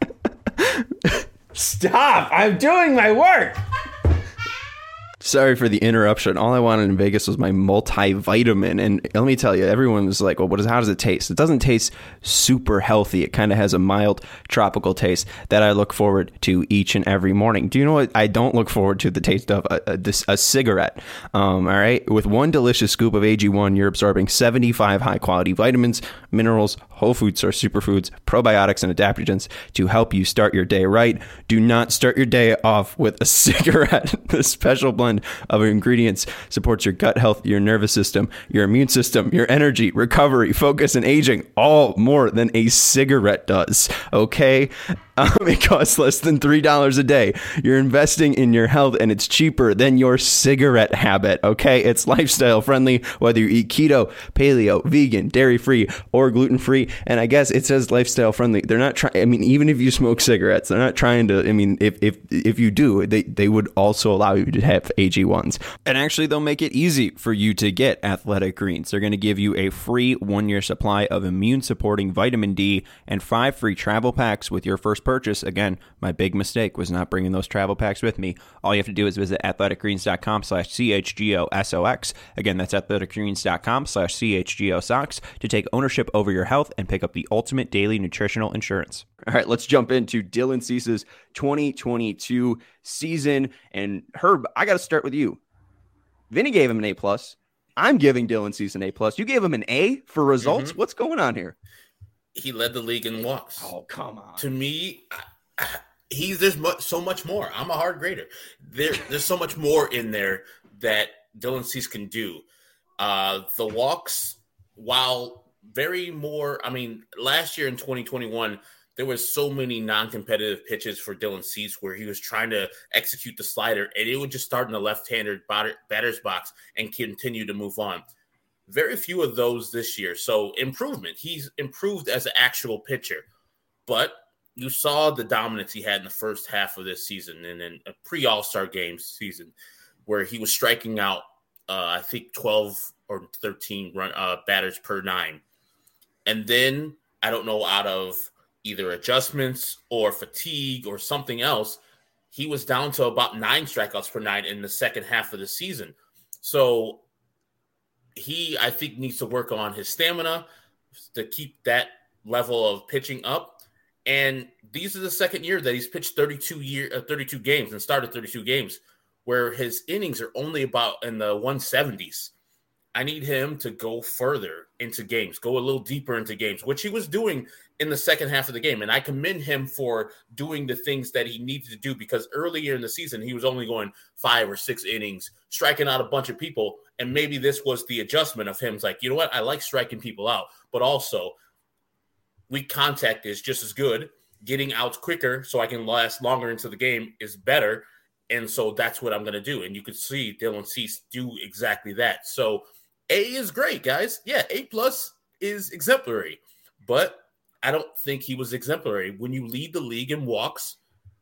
Stop! I'm doing my work. Sorry for the interruption. All I wanted in Vegas was my multivitamin. And let me tell you, everyone was like, well, what is, how does it taste? It doesn't taste super healthy. It kind of has a mild tropical taste that I look forward to each and every morning. Do you know what? I don't look forward to the taste of a, a, this, a cigarette. Um, all right. With one delicious scoop of A G one, you're absorbing seventy-five high quality vitamins, minerals, whole food source superfoods, probiotics, and adaptogens to help you start your day right. Do not start your day off with a cigarette. The special blend of ingredients supports your gut health, your nervous system, your immune system, your energy, recovery, focus, and aging, all more than a cigarette does. Okay? Um, it costs less than three dollars a day. You're investing in your health, and it's cheaper than your cigarette habit. Okay? It's lifestyle friendly, whether you eat keto, paleo, vegan, dairy-free, or gluten-free. And I guess it says lifestyle friendly. They're not trying, I mean, even if you smoke cigarettes, they're not trying to, I mean, if if if you do, they, they would also allow you to have A G ones. And actually, they'll make it easy for you to get Athletic Greens. They're going to give you a free one-year supply of immune-supporting vitamin D and five free travel packs with your first first purchase, again, my big mistake was not bringing those travel packs with me. All you have to do is visit athleticgreens.com slash CHGOSOX. Again, that's athleticgreens.com slash CHGOSOX to take ownership over your health and pick up the ultimate daily nutritional insurance. All right, let's jump into Dylan Cease's twenty twenty-two season. And Herb, I got to start with you. Vinny gave him an A plus. I'm giving Dylan Cease an A plus. You gave him an A for results. Mm-hmm. What's going on here? He led the league in walks. Oh, come on. To me, I, he's there's mu- so much more. I'm a hard grader. There, there's so much more in there that Dylan Cease can do. Uh, the walks, while very more, I mean, last year in twenty twenty-one, there was so many non-competitive pitches for Dylan Cease where he was trying to execute the slider, and it would just start in the left-hander batter, batter's box and continue to move on. Very few of those this year. So improvement. He's improved as an actual pitcher. But you saw the dominance he had in the first half of this season and in a pre-All-Star game season where he was striking out, uh, I think, twelve or thirteen run, uh, batters per nine. And then, I don't know, out of either adjustments or fatigue or something else, he was down to about nine strikeouts per nine in the second half of the season. So he, I think, needs to work on his stamina to keep that level of pitching up. And these are the second year that he's pitched thirty-two year, uh, thirty-two games and started thirty-two games where his innings are only about in the one seventies. I need him to go further into games, go a little deeper into games, which he was doing in the second half of the game. And I commend him for doing the things that he needed to do because earlier in the season, he was only going five or six innings, striking out a bunch of people. And maybe this was the adjustment of him. It's like, you know what? I like striking people out, but also weak contact is just as good. Getting outs quicker so I can last longer into the game is better. And so that's what I'm going to do. And you could see Dylan Cease do exactly that. So A is great, guys. Yeah, A plus is exemplary. But I don't think he was exemplary. When you lead the league in walks,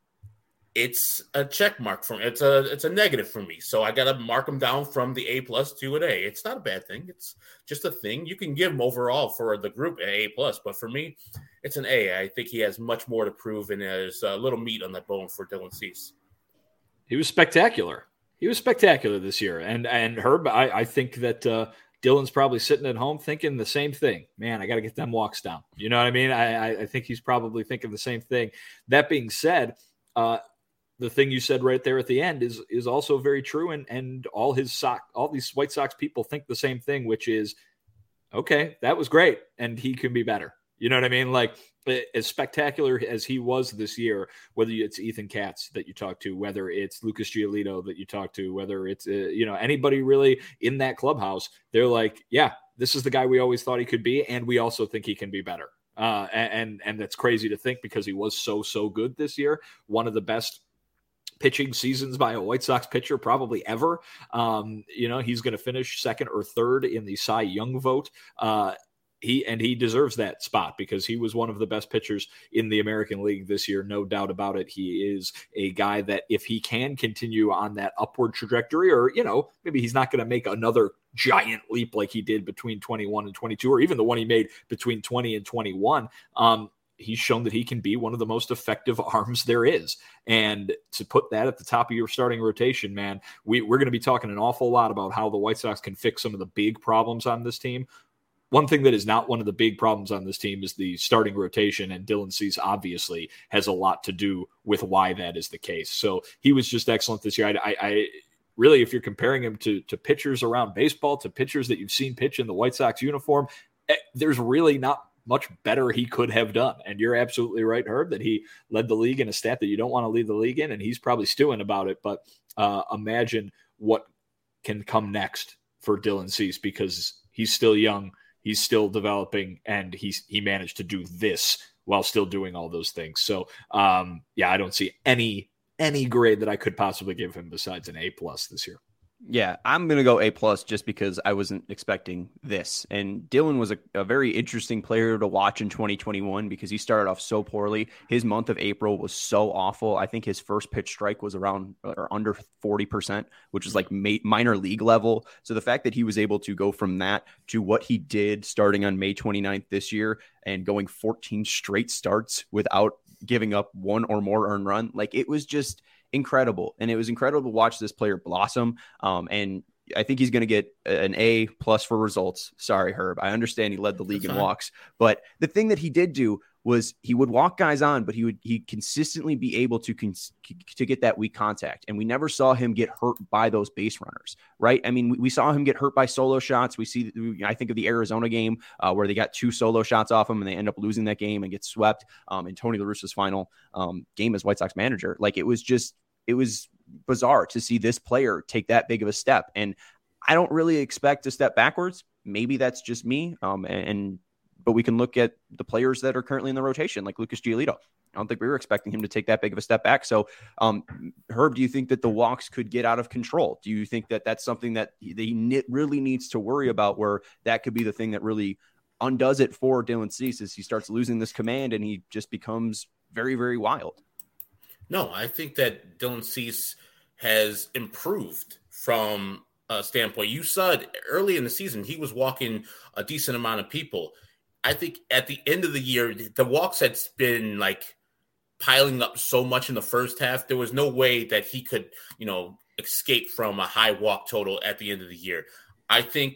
it's a check mark for me. It's a it's a negative for me. So I got to mark him down from the A plus to an A. It's not a bad thing. It's just a thing. You can give him overall for the group an A plus, but for me, it's an A. I think he has much more to prove, and there's a little meat on that bone for Dylan Cease. He was spectacular. He was spectacular this year. And and Herb, I, I think that uh, Dylan's probably sitting at home thinking the same thing. Man, I got to get them walks down. You know what I mean? I, I think he's probably thinking the same thing. That being said, uh, the thing you said right there at the end is is also very true. And and all his sock, all these White Sox people think the same thing, which is, okay, that was great, and he can be better. You know what I mean? Like, as spectacular as he was this year, whether it's Ethan Katz that you talk to, whether it's Lucas Giolito that you talk to, whether it's, uh, you know, anybody really in that clubhouse, they're like, yeah, this is the guy we always thought he could be. And we also think he can be better. Uh, and, and that's crazy to think because he was so, so good this year. One of the best pitching seasons by a White Sox pitcher probably ever. Um, you know, he's going to finish second or third in the Cy Young vote. Uh, He and he deserves that spot because he was one of the best pitchers in the American League this year. No doubt about it. He is a guy that if he can continue on that upward trajectory, or, you know, maybe he's not going to make another giant leap like he did between twenty-one and twenty-two, or even the one he made between twenty and twenty-one. Um, he's shown that he can be one of the most effective arms there is. And to put that at the top of your starting rotation, man, we, we're going to be talking an awful lot about how the White Sox can fix some of the big problems on this team. One thing that is not one of the big problems on this team is the starting rotation, and Dylan Cease obviously has a lot to do with why that is the case. So he was just excellent this year. I, I, I really, if you're comparing him to, to pitchers around baseball, to pitchers that you've seen pitch in the White Sox uniform, there's really not much better he could have done. And you're absolutely right, Herb, that he led the league in a stat that you don't want to lead the league in, and he's probably stewing about it. But uh, imagine what can come next for Dylan Cease, because he's still young. He's still developing, and he's he managed to do this while still doing all those things. So, um, yeah, I don't see any any grade that I could possibly give him besides an A plus this year. Yeah, I'm going to go A plus just because I wasn't expecting this. And Dylan was a, a very interesting player to watch in twenty twenty-one because he started off so poorly. His month of April was so awful. I think his first pitch strike was around or under forty percent, which is like ma- minor league level. So the fact that he was able to go from that to what he did starting on May twenty-ninth this year and going fourteen straight starts without giving up one or more earned run. Like, it was just incredible. And it was incredible to watch this player blossom. Um, and I think he's going to get an A plus for results. Sorry, Herb. I understand he led the league in walks, but the thing that he did do was he would walk guys on, but he would he consistently be able to cons- to get that weak contact. And we never saw him get hurt by those base runners, right? I mean, we, we saw him get hurt by solo shots. We see, I think of the Arizona game uh, where they got two solo shots off him and they end up losing that game and get swept um, in Tony La Russa's final um, game as White Sox manager. Like, it was just, it was bizarre to see this player take that big of a step. And I don't really expect to step backwards. Maybe that's just me. Um, and, and But we can look at the players that are currently in the rotation, like Lucas Giolito. I don't think we were expecting him to take that big of a step back. So, um, Herb, do you think that the walks could get out of control? Do you think that that's something that he really needs to worry about, where that could be the thing that really undoes it for Dylan Cease as he starts losing this command and he just becomes very, very wild? No, I think that Dylan Cease has improved from a standpoint. You saw it early in the season. He was walking a decent amount of people. I think at the end of the year, the walks had been like piling up so much in the first half. There was no way that he could, you know, escape from a high walk total at the end of the year. I think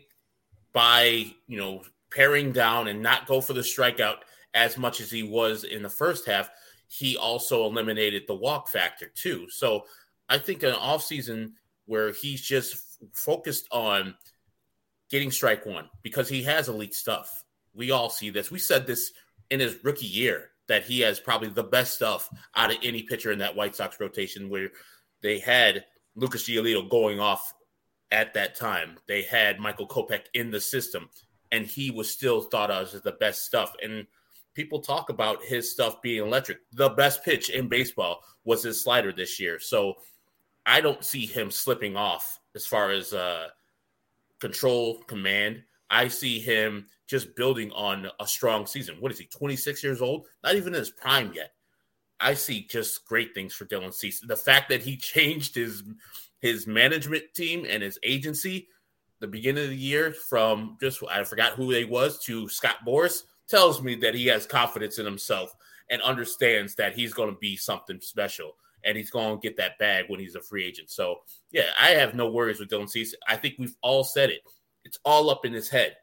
by, you know, paring down and not go for the strikeout as much as he was in the first half, he also eliminated the walk factor too. So I think an offseason where he's just focused on getting strike one, because he has elite stuff. We all see this. We said this in his rookie year, that he has probably the best stuff out of any pitcher in that White Sox rotation, where they had Lucas Giolito going off at that time. They had Michael Kopech in the system, and he was still thought of as the best stuff. And people talk about his stuff being electric. The best pitch in baseball was his slider this year. So I don't see him slipping off as far as uh, control, command. I see him just building on a strong season. What is he, twenty-six years old? Not even in his prime yet. I see just great things for Dylan Cease. The fact that he changed his his management team and his agency the beginning of the year from just, I forgot who they was, to Scott Boras, tells me that he has confidence in himself and understands that he's going to be something special and he's going to get that bag when he's a free agent. So, yeah, I have no worries with Dylan Cease. I think we've all said it. It's all up in his head.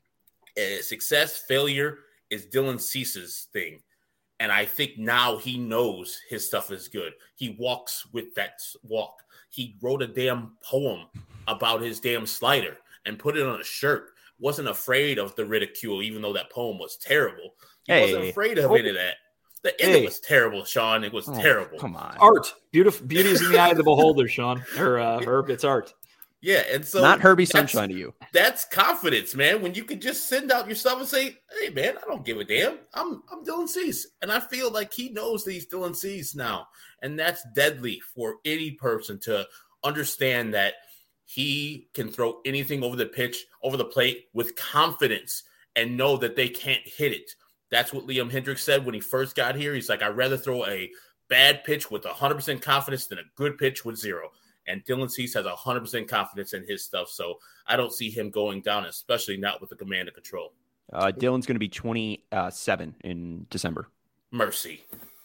Uh, success, failure is Dylan Cease's thing. And I think now he knows his stuff is good. He walks with that walk. He wrote a damn poem about his damn slider and put it on a shirt. Wasn't afraid of the ridicule, even though that poem was terrible. He hey. wasn't afraid of any of that. The end hey. was terrible, Sean. It was oh, terrible. Come on. Art. Beautiful. Beauty is in the eye of the beholder, Sean. Or uh, Herb, it's art. Yeah, and so not Herbie Sunshine to you. That's confidence, man. When you can just send out yourself and say, "Hey, man, I don't give a damn. I'm I'm Dylan Cease," and I feel like he knows that he's Dylan Cease now, and that's deadly for any person to understand that he can throw anything over the pitch, over the plate with confidence, and know that they can't hit it. That's what Liam Hendriks said when he first got here. He's like, "I'd rather throw a bad pitch with one hundred percent confidence than a good pitch with zero." And Dylan Cease has one hundred percent confidence in his stuff. So I don't see him going down, especially not with the command and control. Uh, Dylan's going to be twenty-seven in December. Mercy.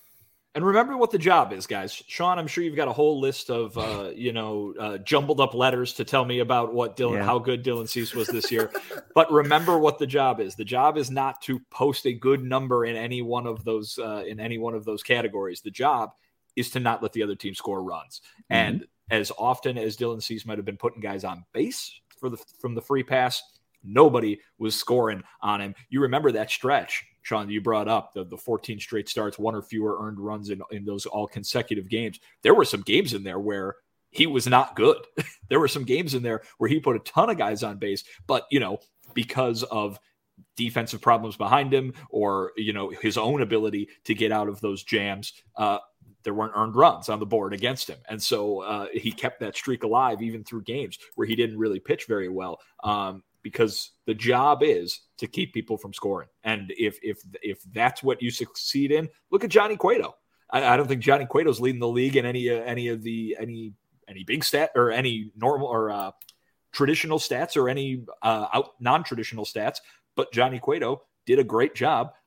And remember what the job is, guys. Sean, I'm sure you've got a whole list of, uh, you know, uh, jumbled up letters to tell me about what Dylan, yeah. how good Dylan Cease was this year. But remember what the job is. The job is not to post a good number in any one of those, uh, in any one of those categories. The job is to not let the other team score runs. Mm-hmm. And as often as Dylan Cease might have been putting guys on base for the from the free pass, nobody was scoring on him. You remember that stretch, Sean, you brought up, the, the fourteen straight starts, one or fewer earned runs in, in those all consecutive games. There were some games in there where he was not good. There were some games in there where he put a ton of guys on base, but, you know, because of defensive problems behind him or, you know, his own ability to get out of those jams, uh, there weren't earned runs on the board against him. And so uh, he kept that streak alive even through games where he didn't really pitch very well, um, because the job is to keep people from scoring. And if if if that's what you succeed in, look at Johnny Cueto. I, I don't think Johnny Cueto's leading the league in any uh, any of the any any big stat or any normal or uh, traditional stats or any uh, out non-traditional stats. But Johnny Cueto did a great job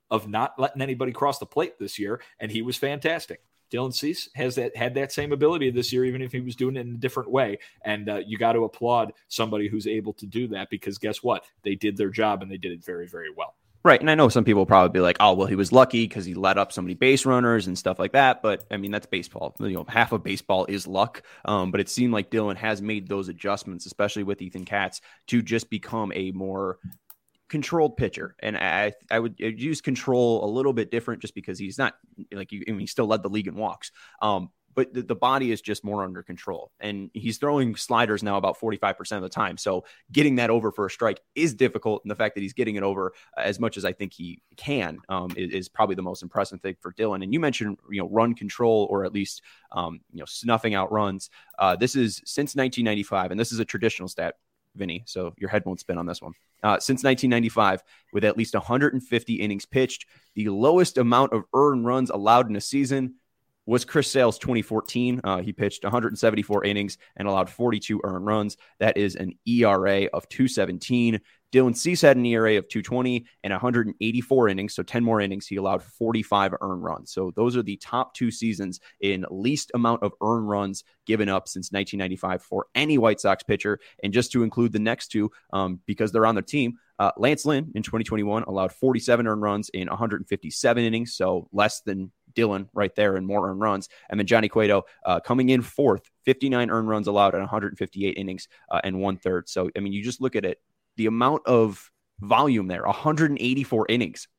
of not letting anybody cross the plate this year, and he was fantastic. Dylan Cease has that had that same ability this year, even if he was doing it in a different way. And uh, you got to applaud somebody who's able to do that, because guess what? They did their job and they did it very, very well. Right. And I know some people will probably be like, oh, well, he was lucky because he let up so many base runners and stuff like that. But I mean, that's baseball. You know, half of baseball is luck. Um, but it seemed like Dylan has made those adjustments, especially with Ethan Katz, to just become a more controlled pitcher. And I I would use control a little bit different, just because he's not like you. I mean, he still led the league in walks. Um, but the, the body is just more under control, and he's throwing sliders now about forty-five percent of the time. So getting that over for a strike is difficult. And the fact that he's getting it over as much as I think he can um, is, is probably the most impressive thing for Dylan. And you mentioned, you know, run control, or at least, um, you know, snuffing out runs. Uh, this is since nineteen ninety-five, and this is a traditional stat, Vinny, so your head won't spin on this one. Uh, since nineteen ninety-five, with at least one hundred fifty innings pitched, the lowest amount of earned runs allowed in a season was Chris Sale's twenty fourteen. Uh, he pitched one hundred seventy-four innings and allowed forty-two earned runs. That is an E R A of two seventeen. Dylan Cease had an E R A of two twenty and one hundred eighty-four innings, so ten more innings. He allowed forty-five earned runs. So those are the top two seasons in least amount of earned runs given up since nineteen ninety-five for any White Sox pitcher. And just to include the next two, um, because they're on their team, uh, Lance Lynn in twenty twenty-one allowed forty-seven earned runs in one hundred fifty-seven innings, so less than Dylan right there and more earned runs. And then Johnny Cueto uh, coming in fourth, fifty-nine earned runs allowed at one hundred fifty-eight innings uh, and one third. So, I mean, you just look at it, the amount of volume there, one hundred eighty-four innings,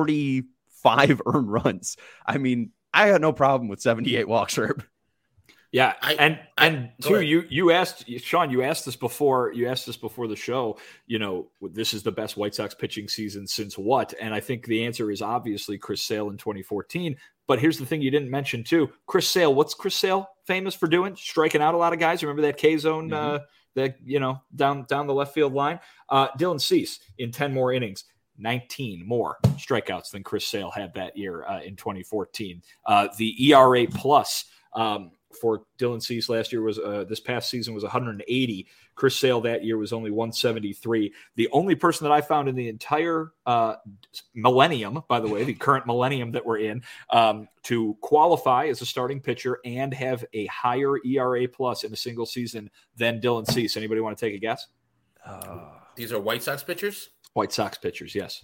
forty-five earned runs. I mean, I had no problem with seventy-eight walks, Herb. Yeah, I, and and I, two, you you asked Sean, you asked this before, you asked this before the show. You know, this is the best White Sox pitching season since what? And I think the answer is obviously Chris Sale in twenty fourteen. But here's the thing you didn't mention too, Chris Sale. What's Chris Sale famous for doing? Striking out a lot of guys. Remember that K zone, mm-hmm. uh, that you know down down the left field line. Uh, Dylan Cease in ten more innings. nineteen more strikeouts than Chris Sale had that year uh, in twenty fourteen. Uh, the E R A plus um, for Dylan Cease last year was uh, this past season was one hundred eighty. Chris Sale that year was only one seventy-three. The only person that I found in the entire uh, millennium, by the way, the current millennium that we're in, um, to qualify as a starting pitcher and have a higher E R A plus in a single season than Dylan Cease. Anybody want to take a guess? Uh, These are White Sox pitchers? White Sox pitchers, yes.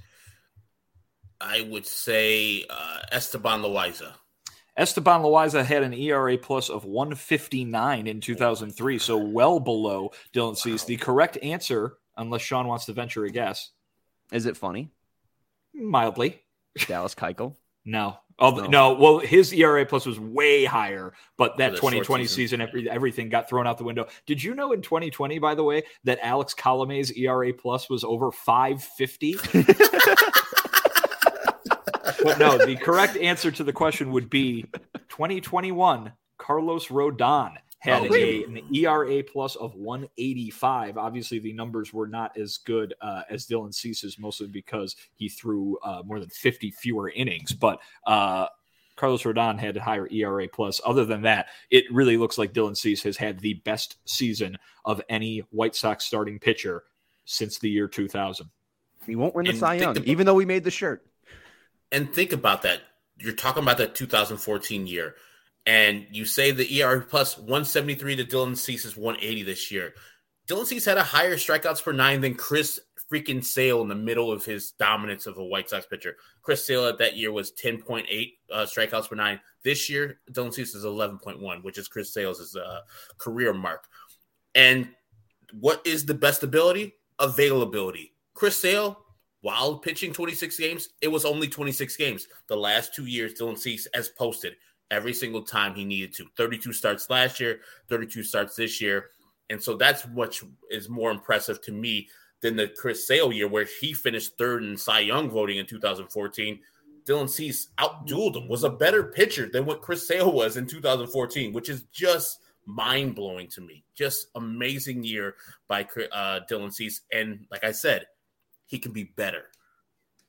I would say uh, Esteban Loaiza. Esteban Loaiza had an E R A plus of one fifty-nine in two thousand three, so well below Dylan Cease. Wow. The correct answer, unless Sean wants to venture a guess. Is it funny? Mildly. Dallas Keuchel? No. Oh, no. no. Well, his E R A plus was way higher, but that twenty twenty season, season every, everything got thrown out the window. Did you know in twenty twenty, by the way, that Alex Colomé's E R A plus was over five fifty? But no, the correct answer to the question would be twenty twenty-one, Carlos Rodon had oh, a, an E R A plus of one eighty-five. Obviously, the numbers were not as good uh, as Dylan Cease's, mostly because he threw uh, more than fifty fewer innings. But uh, Carlos Rodon had a higher E R A plus. Other than that, it really looks like Dylan Cease has had the best season of any White Sox starting pitcher since the year two thousand. He won't win the Cy Young, about, even though we made the shirt. And think about that. You're talking about the two thousand fourteen year. And you say the E R A plus one seventy-three to Dylan Cease's one eighty this year. Dylan Cease had a higher strikeouts per nine than Chris freaking Sale in the middle of his dominance of a White Sox pitcher. Chris Sale at that year was ten point eight uh, strikeouts per nine. This year, Dylan Cease is eleven point one, which is Chris Sale's uh, career mark. And what is the best ability? Availability. Chris Sale, while pitching twenty-six games, it was only twenty-six games. The last two years, Dylan Cease has posted every single time he needed to. thirty-two starts last year, thirty-two starts this year. And so that's what is more impressive to me than the Chris Sale year where he finished third in Cy Young voting in two thousand fourteen. Dylan Cease outdueled him, was a better pitcher than what Chris Sale was in two thousand fourteen, which is just mind-blowing to me. Just amazing year by uh, Dylan Cease. And like I said, he can be better.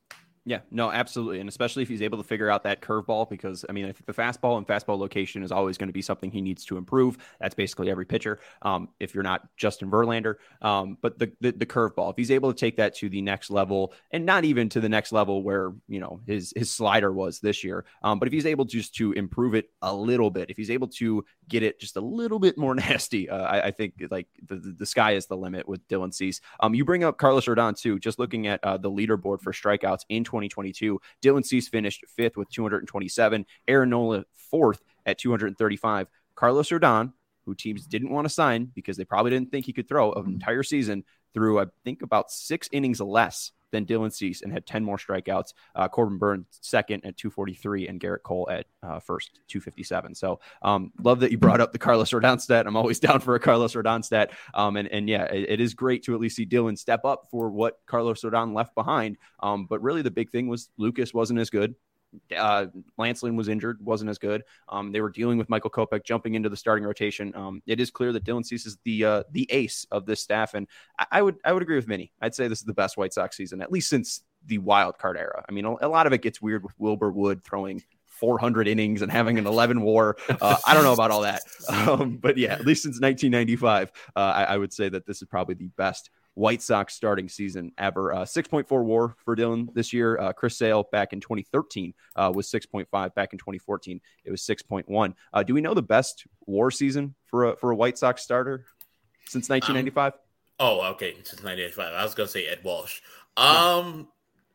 Yeah, no, absolutely. And especially if he's able to figure out that curveball, because I mean, I think the fastball and fastball location is always going to be something he needs to improve. That's basically every pitcher. Um, if you're not Justin Verlander, um, but the, the, the curveball, if he's able to take that to the next level, and not even to the next level where, you know, his, his slider was this year. Um, but if he's able just to improve it a little bit, if he's able to get it just a little bit more nasty, uh, I, I think like the, the, the sky is the limit with Dylan Cease. Um, you bring up Carlos Rodon too, just looking at uh, the leaderboard for strikeouts in twenty twenty-two. Dylan Cease finished fifth with two hundred twenty-seven. Aaron Nola fourth at two hundred thirty-five. Carlos Rodon, who teams didn't want to sign because they probably didn't think he could throw an entire season, threw I think about six innings less than Dylan Cease and had ten more strikeouts. Uh, Corbin Burns second at two forty-three and Garrett Cole at uh, first, two fifty-seven. So um, love that you brought up the Carlos Rodon stat. I'm always down for a Carlos Rodon stat. Um, and, and yeah, it, it is great to at least see Dylan step up for what Carlos Rodon left behind. Um, but really the big thing was Lucas wasn't as good. Uh, Lance Lynn was injured, wasn't as good. Um, they were dealing with Michael Kopech jumping into the starting rotation. Um, it is clear that Dylan Cease is the uh, the ace of this staff, and I, I would I would agree with Minnie. I'd say this is the best White Sox season, at least since the wild card era. I mean, a, a lot of it gets weird with Wilbur Wood throwing four hundred innings and having an eleven war. Uh, I don't know about all that, um, but yeah, at least since nineteen ninety-five, uh, I, I would say that this is probably the best White Sox starting season ever. Uh, six point four war for Dylan this year. Uh, Chris Sale back in twenty thirteen uh, was six point five. Back in twenty fourteen, it was six point one. Uh, do we know the best war season for a, for a White Sox starter since nineteen ninety-five? Um, oh, okay. Since nineteen ninety-five. I was going to say Ed Walsh. Um,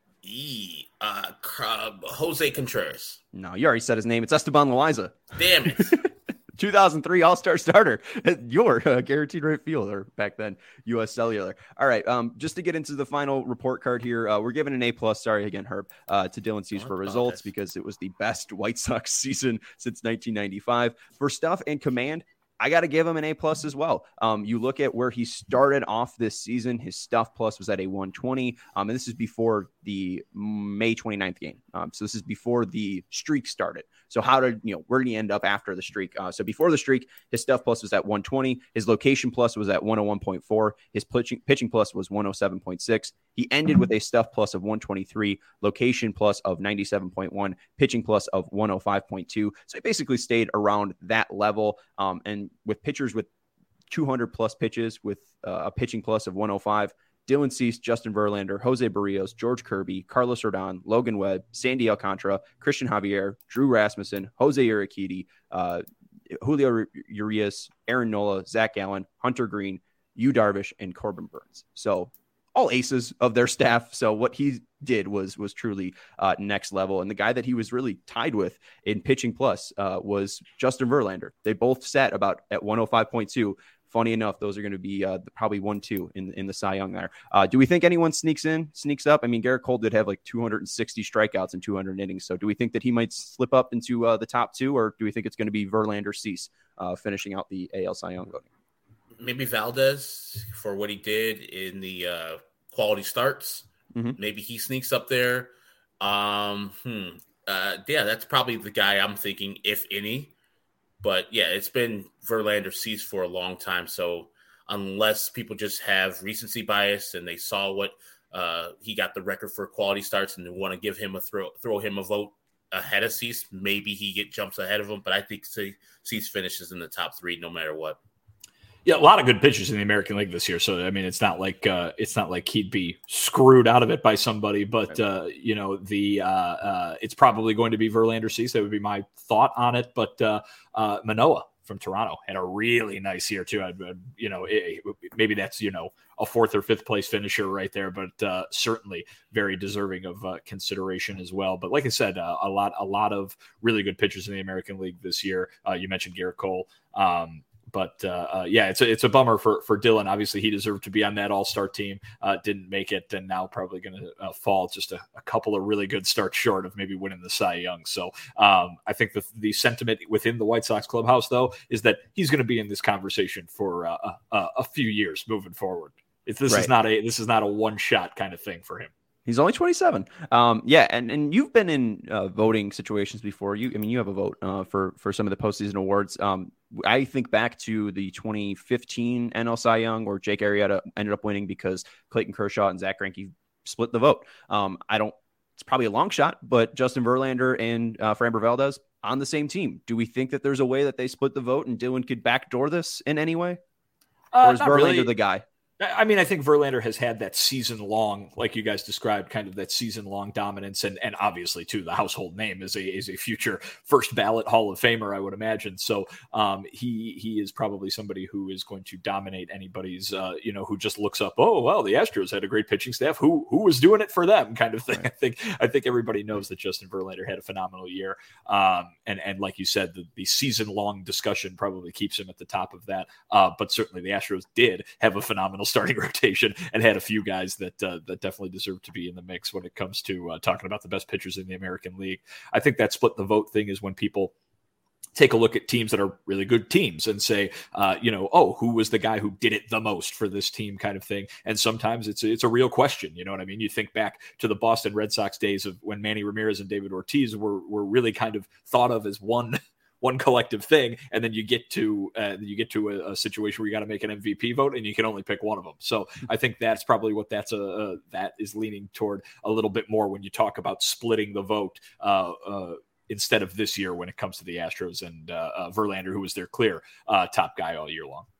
e, uh, Jose Contreras. No, you already said his name. It's Esteban Loaiza. Damn it. two thousand three All-Star starter, your uh, guaranteed right fielder back then, U S Cellular. All right, um, just to get into the final report card here, uh, we're giving an A plus. Sorry again, Herb, uh, to Dylan Cease for results because it was the best White Sox season since nineteen ninety-five. For stuff and command, I got to give him an A plus as well. Um, you look at where he started off this season, his stuff plus was at a one twenty. Um, and this is before the May twenty-ninth game. Um, so this is before the streak started. So how did, you know, where did he end up after the streak? Uh, so before the streak, his stuff plus was at one twenty. His location plus was at one oh one point four. His pitching, pitching plus was one oh seven point six. He ended with a stuff plus of one twenty-three, location plus of ninety-seven point one, pitching plus of one oh five point two. So he basically stayed around that level. Um, and with pitchers with two hundred plus pitches with uh, a pitching plus of one oh five, Dylan Cease, Justin Verlander, Jose Barrios, George Kirby, Carlos Rodon, Logan Webb, Sandy Alcantara, Christian Javier, Drew Rasmussen, Jose Urquidy, uh, Julio Urias, Aaron Nola, Zach Gallen, Hunter Green, Yu Darvish, and Corbin Burns. So all aces of their staff. So what he did was was truly uh, next level. And the guy that he was really tied with in pitching plus uh, was Justin Verlander. They both sat about at one oh five point two. Funny enough, those are going to be uh, probably one two in, in the Cy Young there. Uh, do we think anyone sneaks in, sneaks up? I mean, Garrett Cole did have like two hundred sixty strikeouts and two hundred innings. So do we think that he might slip up into uh, the top two, or do we think it's going to be Verlander, Cease uh, finishing out the A L Cy Young voting? Maybe Valdez for what he did in the uh, quality starts. Mm-hmm. Maybe he sneaks up there. Um, hmm. uh, yeah, that's probably the guy I'm thinking, if any. But yeah, it's been Verlander, Cease for a long time. So unless people just have recency bias and they saw what uh, he got the record for quality starts and they want to give him a throw, throw him a vote ahead of Cease, maybe he get jumps ahead of him. But I think Cease finishes in the top three no matter what. Yeah, a lot of good pitchers in the American League this year. So I mean, it's not like uh, it's not like he'd be screwed out of it by somebody. But uh, you know, the uh, uh, it's probably going to be Verlander, Cease. That would be my thought on it. But uh, uh, Manoah from Toronto had a really nice year too. I'd, you know, it, maybe that's you know a fourth or fifth place finisher right there, but uh, certainly very deserving of uh, consideration as well. But like I said, uh, a lot a lot of really good pitchers in the American League this year. Uh, you mentioned Garrett Cole. Um, But, uh, uh, yeah, it's a, it's a bummer for, for Dylan. Obviously, he deserved to be on that all-star team, uh, didn't make it, and now probably going to uh, fall just a, a couple of really good starts short of maybe winning the Cy Young. So um, I think the, the sentiment within the White Sox clubhouse, though, is that he's going to be in this conversation for uh, a, a few years moving forward. If this right. is not a this is not a one-shot kind of thing for him. He's only twenty-seven. Um, yeah, and, and you've been in uh, voting situations before. You, I mean, you have a vote uh, for for some of the postseason awards. Um, I think back to the twenty fifteen N L Cy Young, where Jake Arrieta ended up winning because Clayton Kershaw and Zach Greinke split the vote. Um, I don't it's probably a long shot, but Justin Verlander and uh, Framber Valdez on the same team. Do we think that there's a way that they split the vote and Dylan could backdoor this in any way? Uh, or is Verlander really. the guy? I mean, I think Verlander has had that season-long, like you guys described, kind of that season-long dominance, and and obviously too, the household name is a is a future first ballot Hall of Famer, I would imagine. So um, he he is probably somebody who is going to dominate anybody's, uh, you know, who just looks up, oh well, the Astros had a great pitching staff. Who who was doing it for them, kind of thing. Right. I think I think everybody knows that Justin Verlander had a phenomenal year, um, and and like you said, the, the season-long discussion probably keeps him at the top of that. Uh, but certainly, the Astros did have a phenomenal starting rotation and had a few guys that uh, that definitely deserve to be in the mix when it comes to uh, talking about the best pitchers in the American League. I think that split the vote thing is when people take a look at teams that are really good teams and say, uh, you know, oh, who was the guy who did it the most for this team, kind of thing. And sometimes it's it's a real question. You know what I mean? You think back to the Boston Red Sox days of when Manny Ramirez and David Ortiz were were really kind of thought of as one. one collective thing, and then you get to uh, you get to a, a situation where you got to make an M V P vote, and you can only pick one of them. So I think that's probably what that's a uh, that is leaning toward a little bit more when you talk about splitting the vote uh, uh, instead of this year when it comes to the Astros and uh, uh, Verlander, who was their clear uh, top guy all year long.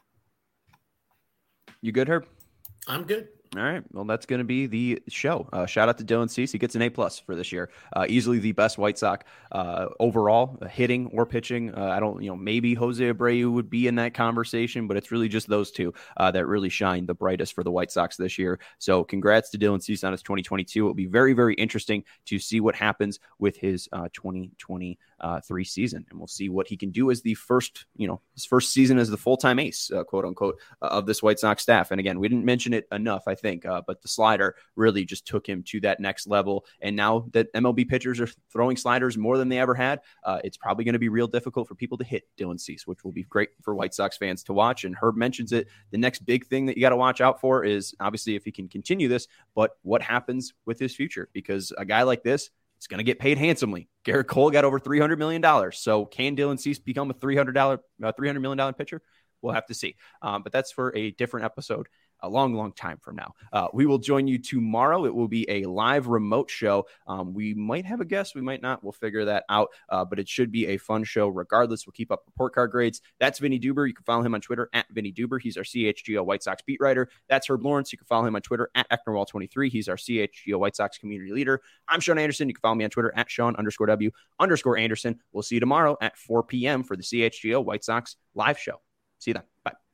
You good, Herb? I'm good. All right. Well, that's going to be the show. Uh, shout out to Dylan Cease. He gets an A plus for this year. Uh, easily the best White Sox uh, overall, uh, hitting or pitching. Uh, I don't, you know, maybe Jose Abreu would be in that conversation, but it's really just those two uh, that really shine the brightest for the White Sox this year. So congrats to Dylan Cease on his twenty twenty-two. It'll be very, very interesting to see what happens with his uh, twenty twenty-three season. And we'll see what he can do as the first, you know, his first season as the full-time ace, uh, quote unquote, uh, of this White Sox staff. And again, we didn't mention it enough, I think, uh, but the slider really just took him to that next level. And now that M L B pitchers are throwing sliders more than they ever had, uh, it's probably going to be real difficult for people to hit Dylan Cease, which will be great for White Sox fans to watch. And Herb mentions it. The next big thing that you got to watch out for is obviously if he can continue this, but what happens with his future? Because a guy like this, it's going to get paid handsomely. Garrett Cole got over three hundred million dollars. So can Dylan Cease become a three hundred million dollars pitcher? We'll have to see. Um, but that's for a different episode. A long, long time from now. Uh, we will join you tomorrow. It will be a live remote show. Um, we might have a guest. We might not. We'll figure that out. Uh, but it should be a fun show regardless. We'll keep up report card grades. That's Vinny Duber. You can follow him on Twitter at Vinny Duber. He's our C H G O White Sox beat writer. That's Herb Lawrence. You can follow him on Twitter at Ecknerwall twenty-three. He's our C H G O White Sox community leader. I'm Sean Anderson. You can follow me on Twitter at Sean underscore W underscore Anderson. We'll see you tomorrow at four p.m. for the C H G O White Sox live show. See you then. Bye.